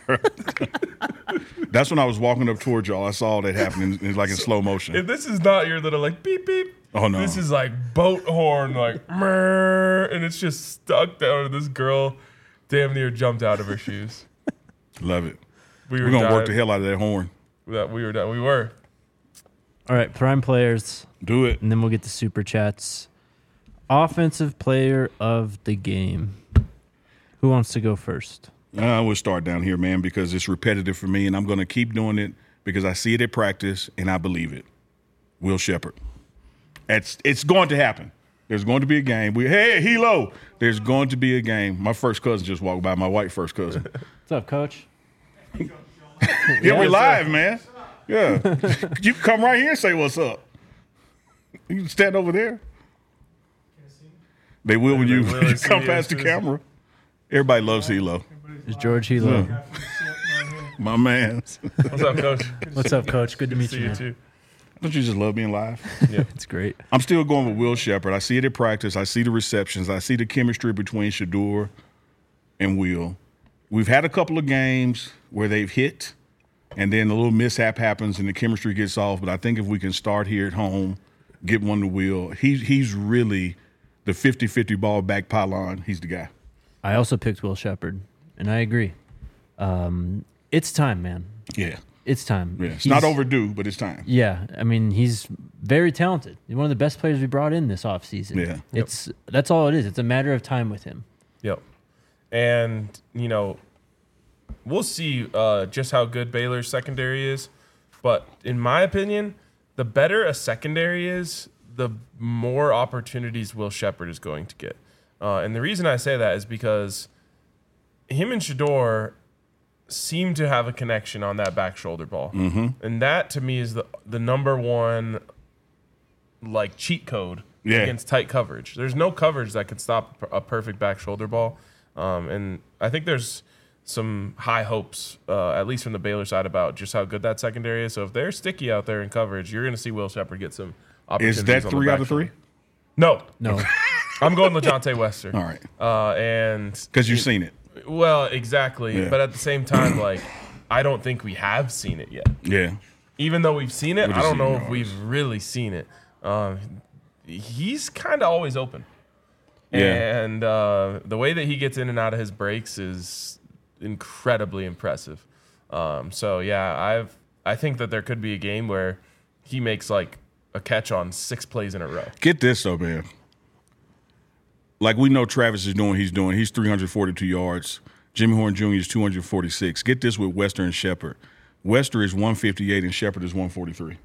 That's when I was walking up towards y'all. I saw that happening. It's like in slow motion. And this is not your little like beep beep. Oh, no. This is like boat horn, like, murr, and it's just stuck down. And this girl damn near jumped out of her shoes. Love it. We're going to work the hell out of that horn. We were. All right, prime players. Do it. And then we'll get to super chats. Offensive player of the game. Who wants to go first? We'll start down here, man, because it's repetitive for me, and I'm going to keep doing it because I see it at practice, and I believe it. Will Sheppard. It's going to happen. There's going to be a game. Hey, Hilo. There's going to be a game. My first cousin just walked by, my white first cousin. What's up, Coach? Yeah, we're live, man. Yeah. You can come right here and say what's up. You can stand over there. They will when you come past the camera. Everybody loves Hilo. It's George Hilo. Yeah. My man. What's up, Coach? What's up, Coach? Good to meet you, man. too. Don't you just love being live? Yeah, it's great. I'm still going with Will Sheppard. I see it at practice. I see the receptions. I see the chemistry between Shedeur and Will. We've had a couple of games where they've hit, and then a little mishap happens and the chemistry gets off. But I think if we can start here at home, get one to Will, he's really the 50-50 ball back pylon. He's the guy. I also picked Will Sheppard, and I agree. It's time, man. Yeah. It's time. Yeah. It's not overdue, but it's time. Yeah. I mean, he's very talented. He's one of the best players we brought in this offseason. Yeah. That's all it is. It's a matter of time with him. Yep. And, we'll see just how good Baylor's secondary is. But in my opinion, the better a secondary is, the more opportunities Will Sheppard is going to get. And the reason I say that is because him and Shedeur seem to have a connection on that back shoulder ball. Mm-hmm. And that, to me, is the number one, cheat code against tight coverage. There's no coverage that could stop a perfect back shoulder ball. And I think there's some high hopes, at least from the Baylor side, about just how good that secondary is. So if they're sticky out there in coverage, you're going to see Will Sheppard get some opportunities. Is that 3 out of 3? No. No. I'm going LeJontay Wester. All right. And because you've seen it. Well, exactly. Yeah. But at the same time, I don't think we have seen it yet. Yeah. Even though we've seen it, I don't know if we've really seen it. He's kind of always open. Yeah. And the way that he gets in and out of his breaks is incredibly impressive. I think that there could be a game where he makes a catch on 6 plays in a row. Get this though, man. We know Travis is doing he's 342 yards. Jimmy Horn Jr. is 246. Get this with Wester and Sheppard. Wester is 158 and Sheppard is 143.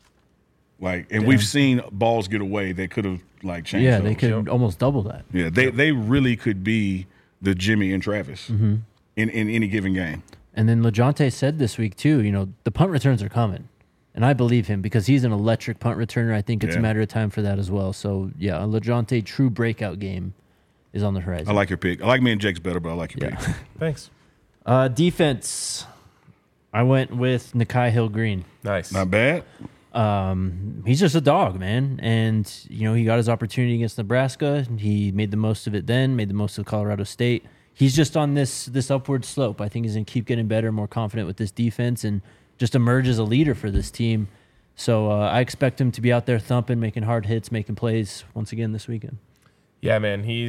We've seen balls get away that could have changed. Yeah, they could almost double that. Yeah, they really could be the Jimmy and Travis in any given game. And then LeJontay said this week too, the punt returns are coming. And I believe him because he's an electric punt returner. I think it's a matter of time for that as well. So, yeah, a LeJontay true breakout game is on the horizon. I like your pick. I like me and Jake's better, but I like your pick. Thanks. Defense. I went with Nakai Hill-Green. Nice. Not bad. He's just a dog, man. And, he got his opportunity against Nebraska. He made the most of it then, made the most of Colorado State. He's just on this upward slope. I think he's going to keep getting better, more confident with this defense, and just emerge as a leader for this team. So I expect him to be out there thumping, making hard hits, making plays once again this weekend. Yeah, man, he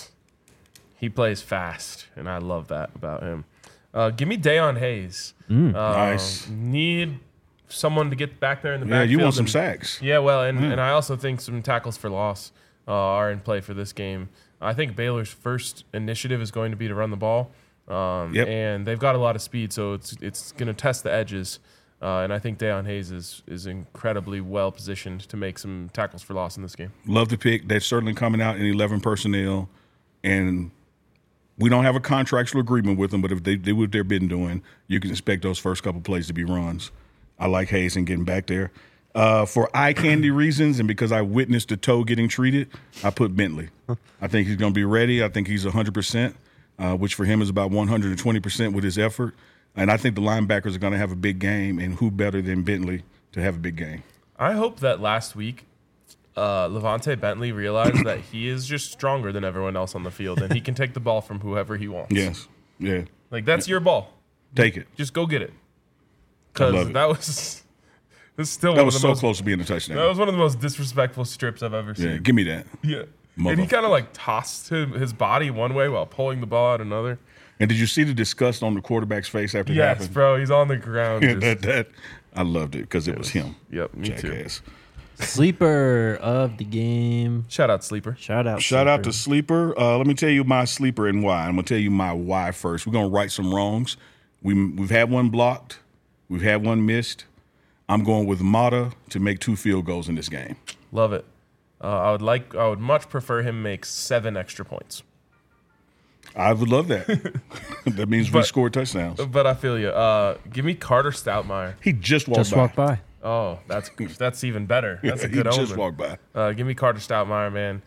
plays fast, and I love that about him. Give me Dayon Hayes. Nice. Need someone to get back there in the backfield. Yeah, you want some sacks. Yeah, well, and I also think some tackles for loss are in play for this game. I think Baylor's first initiative is going to be to run the ball. And they've got a lot of speed, so it's going to test the edges. And I think Dayon Hayes is incredibly well positioned to make some tackles for loss in this game. Love the pick. They're certainly coming out in 11 personnel, and we don't have a contractual agreement with them, but if they do what they've been doing, you can expect those first couple plays to be runs. I like Hayes and getting back there. For eye candy reasons and because I witnessed the toe getting treated, I put Bentley. I think he's going to be ready. I think he's 100%. Which for him is about 120% with his effort. And I think the linebackers are going to have a big game, and who better than Bentley to have a big game? I hope that last week Levante Bentley realized that he is just stronger than everyone else on the field, and he can take the ball from whoever he wants. Yes. Yeah. That's your ball. Take it. Just go get it. Because that was This is still that was so close to being a touchdown. That was one of the most disrespectful strips I've ever seen. Yeah, give me that. Yeah. And he kind of like tossed his body one way while pulling the ball out another. And did you see the disgust on the quarterback's face after it happened? Yes, bro. He's on the ground. I loved it because it was him. Yep, me Jackass. too. Sleeper of the game. Shout out Sleeper. Shout out to Sleeper. Let me tell you my sleeper and why. I'm going to tell you my why first. We're going to right some wrongs. We've had one blocked. We've had one missed. I'm going with Mata to make 2 field goals in this game. Love it. I would much prefer him make 7 extra points. I would love that. That means we scored touchdowns. But I feel you. Give me Carter Stoutmire. He just walked by. Oh, that's even better. That's a good omen. He just walked by. Give me Carter Stoutmire, man.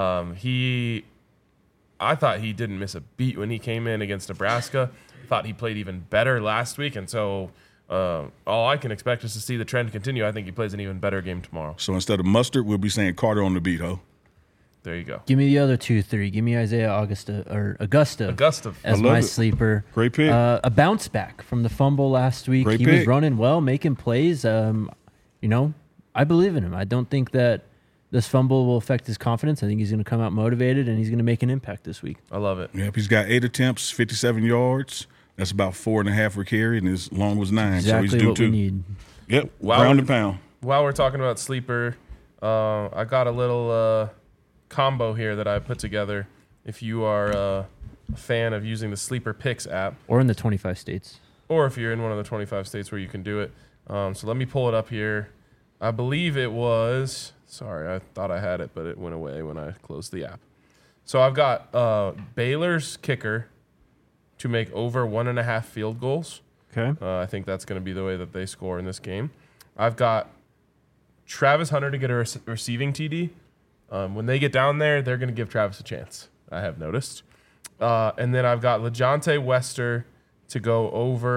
I thought he didn't miss a beat when he came in against Nebraska. Thought he played even better last week, and so all I can expect is to see the trend continue. I think he plays an even better game tomorrow. So instead of Mustard, we'll be saying Carter on the beat, ho. There you go. Give me the other 2-3. Give me Isaiah Augusta as my sleeper. Great pick. A bounce back from the fumble last week. Great he pick. was running well, making plays. I believe in him. I don't think that this fumble will affect his confidence. I think he's going to come out motivated, and he's going to make an impact this week. I love it. Yep, he's got 8 attempts, 57 yards. That's about 4.5 per carry, and his long was 9. Exactly so he's due what we need. Yep, ground and pound. While we're talking about sleeper, I got a little combo here that I put together. If you are a fan of using the Sleeper Picks app, or in the 25 states, or if you're in one of the 25 states where you can do it, so let me pull it up here. I believe it was. Sorry, I thought I had it, but it went away when I closed the app. So I've got Baylor's kicker to make over 1.5 field goals. Okay. I think that's going to be the way that they score in this game. I've got Travis Hunter to get a receiving TD. When they get down there, they're going to give Travis a chance, I have noticed. And then I've got LeJontay Wester to go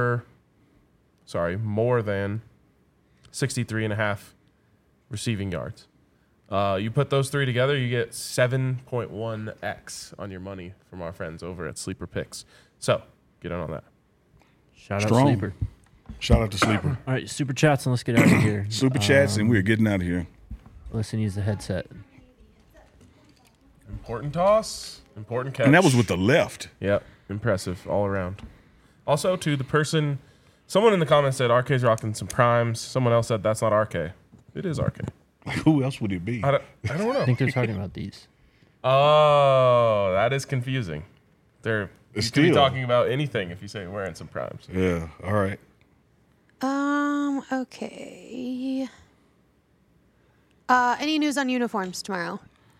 more than 63.5 receiving yards. You put those 3 together, you get 7.1x on your money from our friends over at Sleeper Picks. So get in on that. Shout out Sleeper. Shout out to Sleeper. All right, super chats, and let's get out of here. Super chats, and we're getting out of here. Listen, use the headset. Important toss, important catch. And that was with the left. Yep, impressive all around. Also, to the person, someone in the comments said RK's rocking some primes. Someone else said that's not RK. It is RK. Who else would it be? I don't know. I think they're talking about these. Oh, that is confusing. You could be Still. talking about anything if you say wearing some primes. Yeah, all right. Okay. Any news on uniforms tomorrow?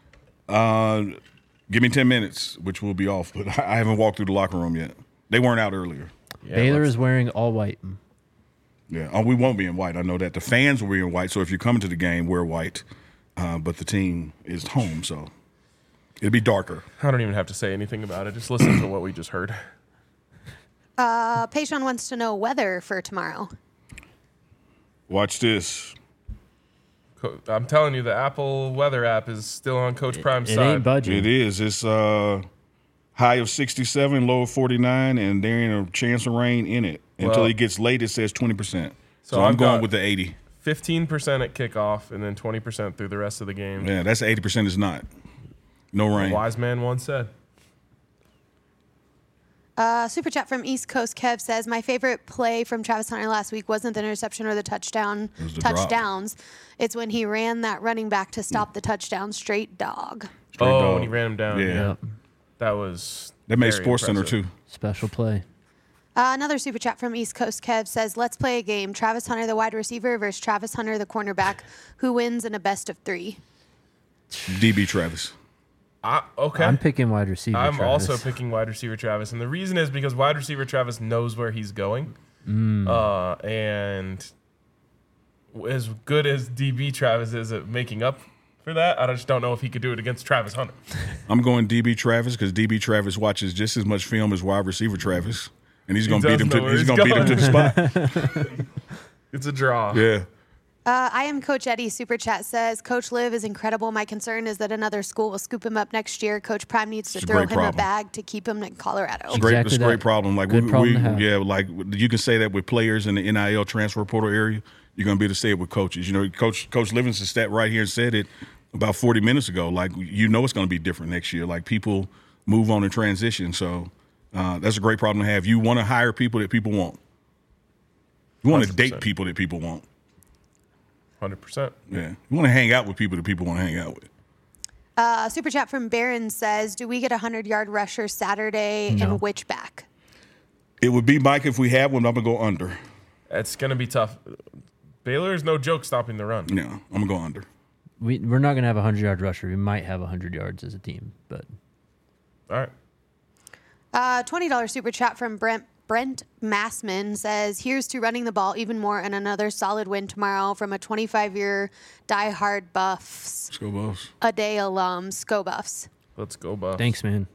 Give me 10 minutes, which will be off, but I haven't walked through the locker room yet. They weren't out earlier. Yeah, Baylor is wearing all white. Yeah. Oh, we won't be in white. I know that. The fans will be in white, so if you're coming to the game, wear white. But the team is home, so it'll be darker. I don't even have to say anything about it. Just listen to what we just heard. Payshawn wants to know weather for tomorrow. Watch this. I'm telling you, the Apple weather app is still on Coach Prime's side. It ain't budging. It is. It's high of 67, low of 49, and there ain't a chance of rain in it. Until it gets late, it says 20%. So I'm going with the 80. 15% at kickoff and then 20% through the rest of the game. Yeah, that's 80% is not. No rain. A wise man once said. Super chat from East Coast Kev says, my favorite play from Travis Hunter last week wasn't the interception or the touchdown. It was the touchdowns. It's when he ran that running back to stop the touchdown. Straight dog. When he ran him down. Yeah. That was That made very Sports Center impressive. too. Special play. Another super chat from East Coast Kev says, let's play a game. Travis Hunter, the wide receiver, versus Travis Hunter, the cornerback. Who wins in a best of 3? DB Travis. Okay. I'm picking wide receiver. I'm Travis. also picking wide receiver Travis. And the reason is because wide receiver Travis knows where he's going. And as good as DB Travis is at making up for that, I just don't know if he could do it against Travis Hunter. I'm going DB Travis because DB Travis watches just as much film as wide receiver Travis. And he's going to beat him to the spot. It's a draw. Yeah. I am Coach Eddie. Super chat says, Coach Liv is incredible. My concern is that another school will scoop him up next year. Coach Prime needs to throw him a bag to keep him in Colorado. It's a great problem. Like Good problem to have. yeah, like you can say that with players in the NIL transfer portal area. you're going to be able to say it with coaches. You know, Coach Livingston sat right here and said it about 40 minutes ago. Like, you know it's going to be different next year. Like, people move on and transition. So that's a great problem to have. You want to hire people that people want. You want to 100%. date people that people want. 100%. Yeah. You want to hang out with people that people want to hang out with. Super chat from Barron says, do we get a 100-yard rusher Saturday and which back? It would be Mike if we have one. I'm going to go under. It's going to be tough. Baylor is no joke stopping the run. No, I'm going to go under. We're not going to have a 100-yard rusher. We might have 100 yards as a team, but. All right. $20 super chat from Brent Massman says, here's to running the ball even more and another solid win tomorrow from a 25-year diehard Buffs. Let's go Buffs. A day alum, Sco Buffs. Let's go, Buffs. Thanks, man.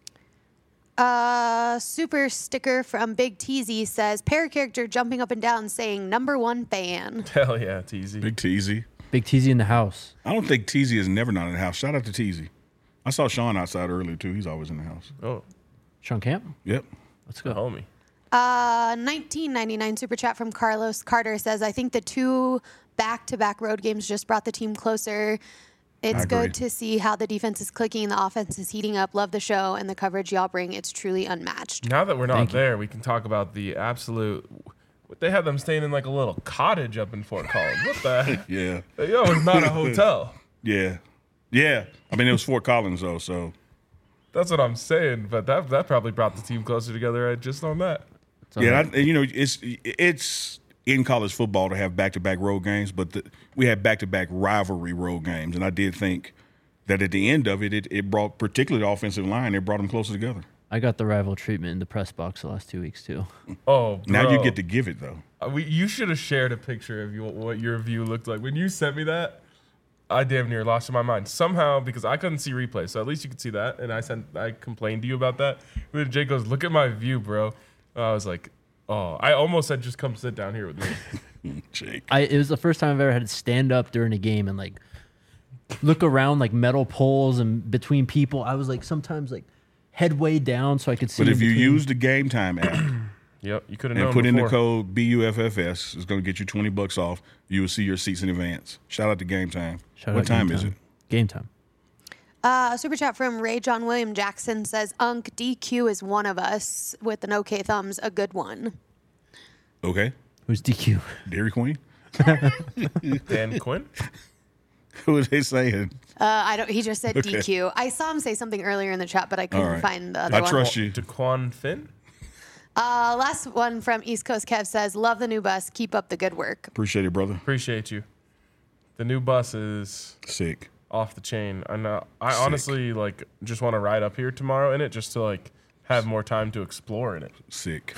Super sticker from Big Teasy says, pair character jumping up and down saying #1 fan. Hell yeah, Teasy. Big Teasy. Big Teasy in the house. I don't think Teasy is never not in the house. Shout out to Teasy. I saw Sean outside earlier, too. He's always in the house. Oh, Sean Camp? Yep. Let's go. homie. 1999 super chat from Carlos Carter says, I think the 2 back-to-back road games just brought the team closer. It's good to see how the defense is clicking, the offense is heating up. Love the show and the coverage y'all bring. It's truly unmatched. Now that we're not there, we can talk about the absolute. They had them staying in like a little cottage up in Fort Collins. What the heck? Yeah. Yo, it's not a hotel. Yeah. Yeah. I mean, it was Fort Collins, though, so. That's what I'm saying. But that probably brought the team closer together just on that. Yeah, it's in college football to have back-to-back road games, but we had back-to-back rivalry road games, and I did think that at the end of it brought, particularly the offensive line, it brought them closer together. I got the rival treatment in the press box the last 2 weeks, too. Oh, bro. Now you get to give it, though. You should have shared a picture of what your view looked like. When you sent me that, I damn near lost my mind. Somehow, because I couldn't see replays, so at least you could see that, and I complained to you about that. And Jake goes, look at my view, bro. I was like, oh, I almost said, just come sit down here with me. Jake. It was the first time I've ever had to stand up during a game and like look around like metal poles and between people. I was like sometimes like head way down so I could see. But if you use the Game Time app, yep, you could have known. And put before. in the code BUFFS, it's going to get you $20 off. You will see your seats in advance. Shout out to Game Time. What time is it? Game Time. Super chat from Ray John William Jackson says, Unk, DQ is one of us with an okay thumbs, a good one. Okay. Who's DQ? Dairy Queen? Dan Quinn? Who are they saying? He just said Okay. DQ. I saw him say something earlier in the chat, but I couldn't find the other one. I trust you. DeQuan Finn? Last one from East Coast Kev says, love the new bus. Keep up the good work. Appreciate it, brother. Appreciate you. The new bus is sick. Off the chain. I know. I honestly like just want to ride up here tomorrow in it just to like have more time to explore in it. Sick.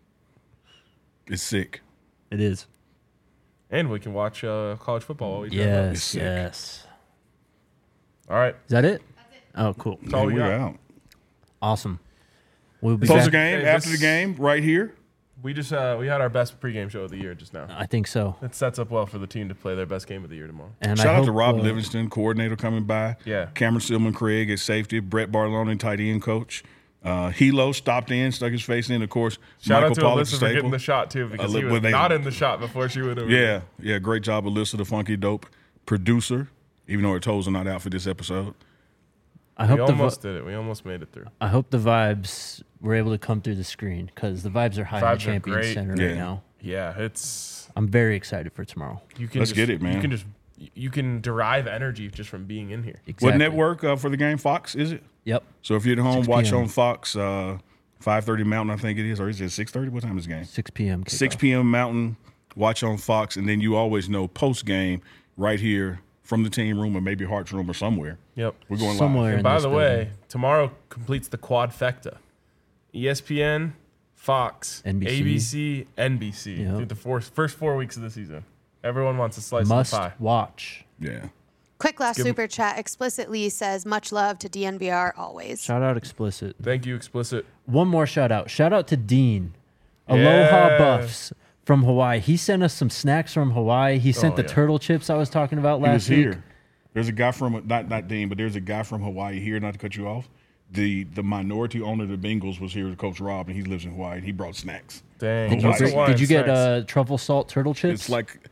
It's sick. It is. And we can watch college football while we drive up. Yes, yes. All right. Is that it? Oh, cool. That's all we got. out. Awesome. We'll be Close back. the game after the game right here. We just we had our best pregame show of the year just now. I think so. It sets up well for the team to play their best game of the year tomorrow. And Shout out to Rob Livingston, coordinator, coming by. Yeah. Cameron Stillman Craig at safety. Brett Barlone, tight end coach. Hilo stopped in, stuck his face in. Of course, Shout Michael out to Pollack, Alyssa for getting the shot too, because he was they- not in the shot before she went over. Yeah, great job, Alyssa, the funky dope producer. Even though her toes are not out for this episode. I hope we almost did it. We almost made it through. I hope the vibes were able to come through the screen because the vibes are high in the Vibes are Champions great. Center right now. Yeah, it's. I'm very excited for tomorrow. You can Let's just, get it, man. You can derive energy just from being in here. Exactly. What network for the game? Fox, is it? Yep. So if you're at home, 6 watch p.m. on Fox, 5:30 Mountain, I think it is. Or is it 6:30? What time is the game? 6 p.m. 6 p.m. Mountain, watch on Fox. And then you always know post-game right here from the team room or maybe Hart's room or somewhere. Yep. We're going Somewhere. live. And by the way, tomorrow completes the quadfecta. ESPN, Fox, NBC. ABC, NBC. Yep. Through the first 4 weeks of the season. Everyone wants a slice Must of the pie. watch. Yeah. Quick last give 'em- super chat explicitly says, much love to DNVR always. Shout out Explicit. Thank you, Explicit. One more shout out. Shout out to Dean. Aloha Yeah. Buffs from Hawaii. He sent us some snacks from Hawaii. He sent Oh, the yeah. turtle chips I was talking about He was last week. here. There's a guy from, not Dean, but there's a guy from Hawaii here, not to cut you off. The minority owner of the Bengals was here to Coach Rob, and he lives in Hawaii, and he brought snacks. Dang. Did you What's get- Hawaiian Did you get snacks? truffle salt turtle chips? It's like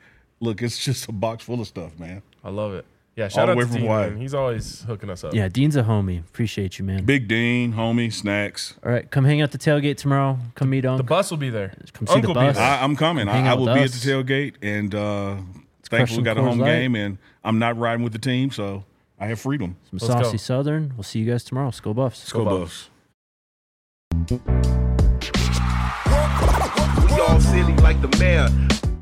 look, it's just a box full of stuff, man. I love it. Yeah, shout out to Dean, man. He's always hooking us up. Yeah, Dean's a homie. Appreciate you, man. Big Dean, homie, snacks. All right, come hang out the tailgate tomorrow. Come meet Unc. The bus will be there. Come see the bus. I'm coming. I will be at the tailgate, and thankfully we got a home game, and I'm not riding with the team, so I have freedom. Some saucy Southern. We'll see you guys tomorrow. Skol Buffs. Skol Buffs. We all silly like the mayor.